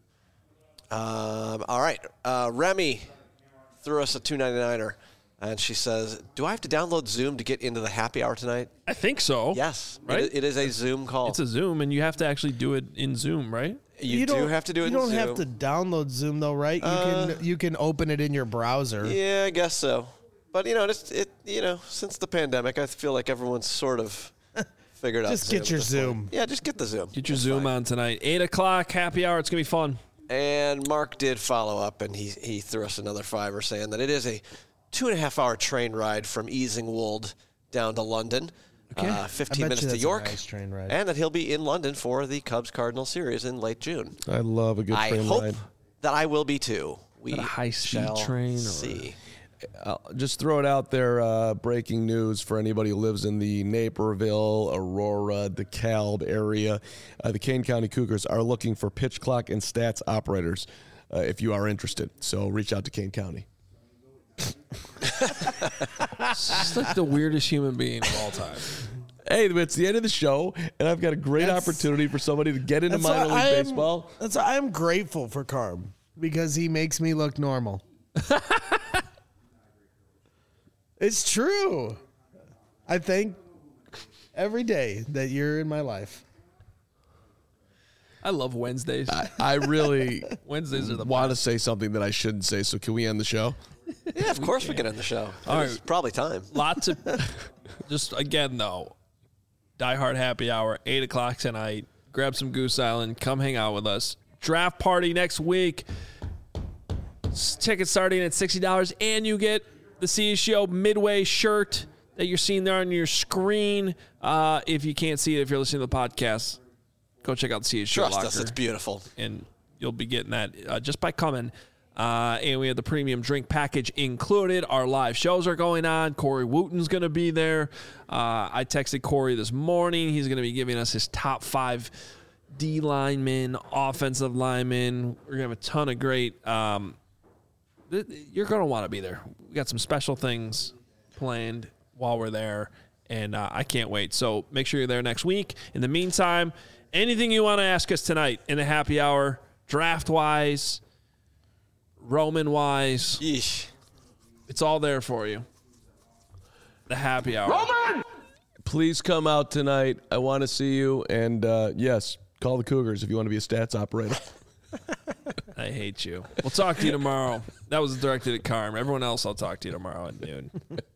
Um, all right. Uh, Remy threw us a two ninety-niner. And she says, do I have to download Zoom to get into the happy hour tonight? I think so. Yes. Right? It, it is a Zoom call. It's a Zoom, and you have to actually do it in Zoom, right? You, you do don't, have to do it You in don't Zoom. have to download Zoom, though, right? You Uh, can you can open it in your browser. Yeah, I guess so. But, you know, it's, it, you know, since the pandemic, I feel like everyone's sort of figured out Just Zoom get at your this Zoom. point. Yeah, just get the Zoom. Get your That's Zoom fine. on tonight. eight o'clock, happy hour. It's going to be fun. And Mark did follow up, and he, he threw us another fiver saying that it is a two and a half hour train ride from Easingwold down to London, Okay. uh, I fifteen bet minutes you to that's a York, nice train ride. and that he'll be in London for the Cubs Cardinal series in late June. I love a good I train hope ride. that I will be too. We Is that a high-speed shall train or- see. I'll just throw it out there. Uh, breaking news for anybody who lives in the Naperville, Aurora, DeKalb area. Uh, the Kane County Cougars are looking for pitch clock and stats operators uh, if you are interested. So reach out to Kane County. It's just like the weirdest human being of all time. Hey, it's the end of the show, and I've got a great That's- opportunity for somebody to get into That's minor league why I am- baseball. That's why I am grateful for Carb because he makes me look normal. It's true. I thank every day that you're in my life. I love Wednesdays. I, I really Wednesdays are the want to best. say something that I shouldn't say, so can we end the show? Yeah, of course we can end the show. All It's right. probably time. Lots of, just again though, Die Hard happy hour, eight o'clock tonight. Grab some Goose Island. Come hang out with us. Draft party next week. S- Tickets starting at sixty dollars, and you get the C S G O Midway shirt that you're seeing there on your screen. Uh, if you can't see it, if you're listening to the podcast, go check out the C S G O Trust locker. us, it's beautiful. And you'll be getting that uh, just by coming. Uh, and we have the premium drink package included. Our live shows are going on. Corey Wooten's going to be there. Uh, I texted Corey this morning. He's going to be giving us his top five D linemen, offensive linemen. We're going to have a ton of great. Um, th- you're going to want to be there. We got some special things planned while we're there, and uh, I can't wait. So make sure you're there next week. In the meantime, anything you want to ask us tonight in the happy hour, draft-wise, Roman-wise, Yeesh. it's all there for you. The happy hour. Please come out tonight. I want to see you. And uh, yes, call the Cougars if you want to be a stats operator. I hate you. We'll talk to you tomorrow. That was directed at Carm. Everyone else, I'll talk to you tomorrow at noon.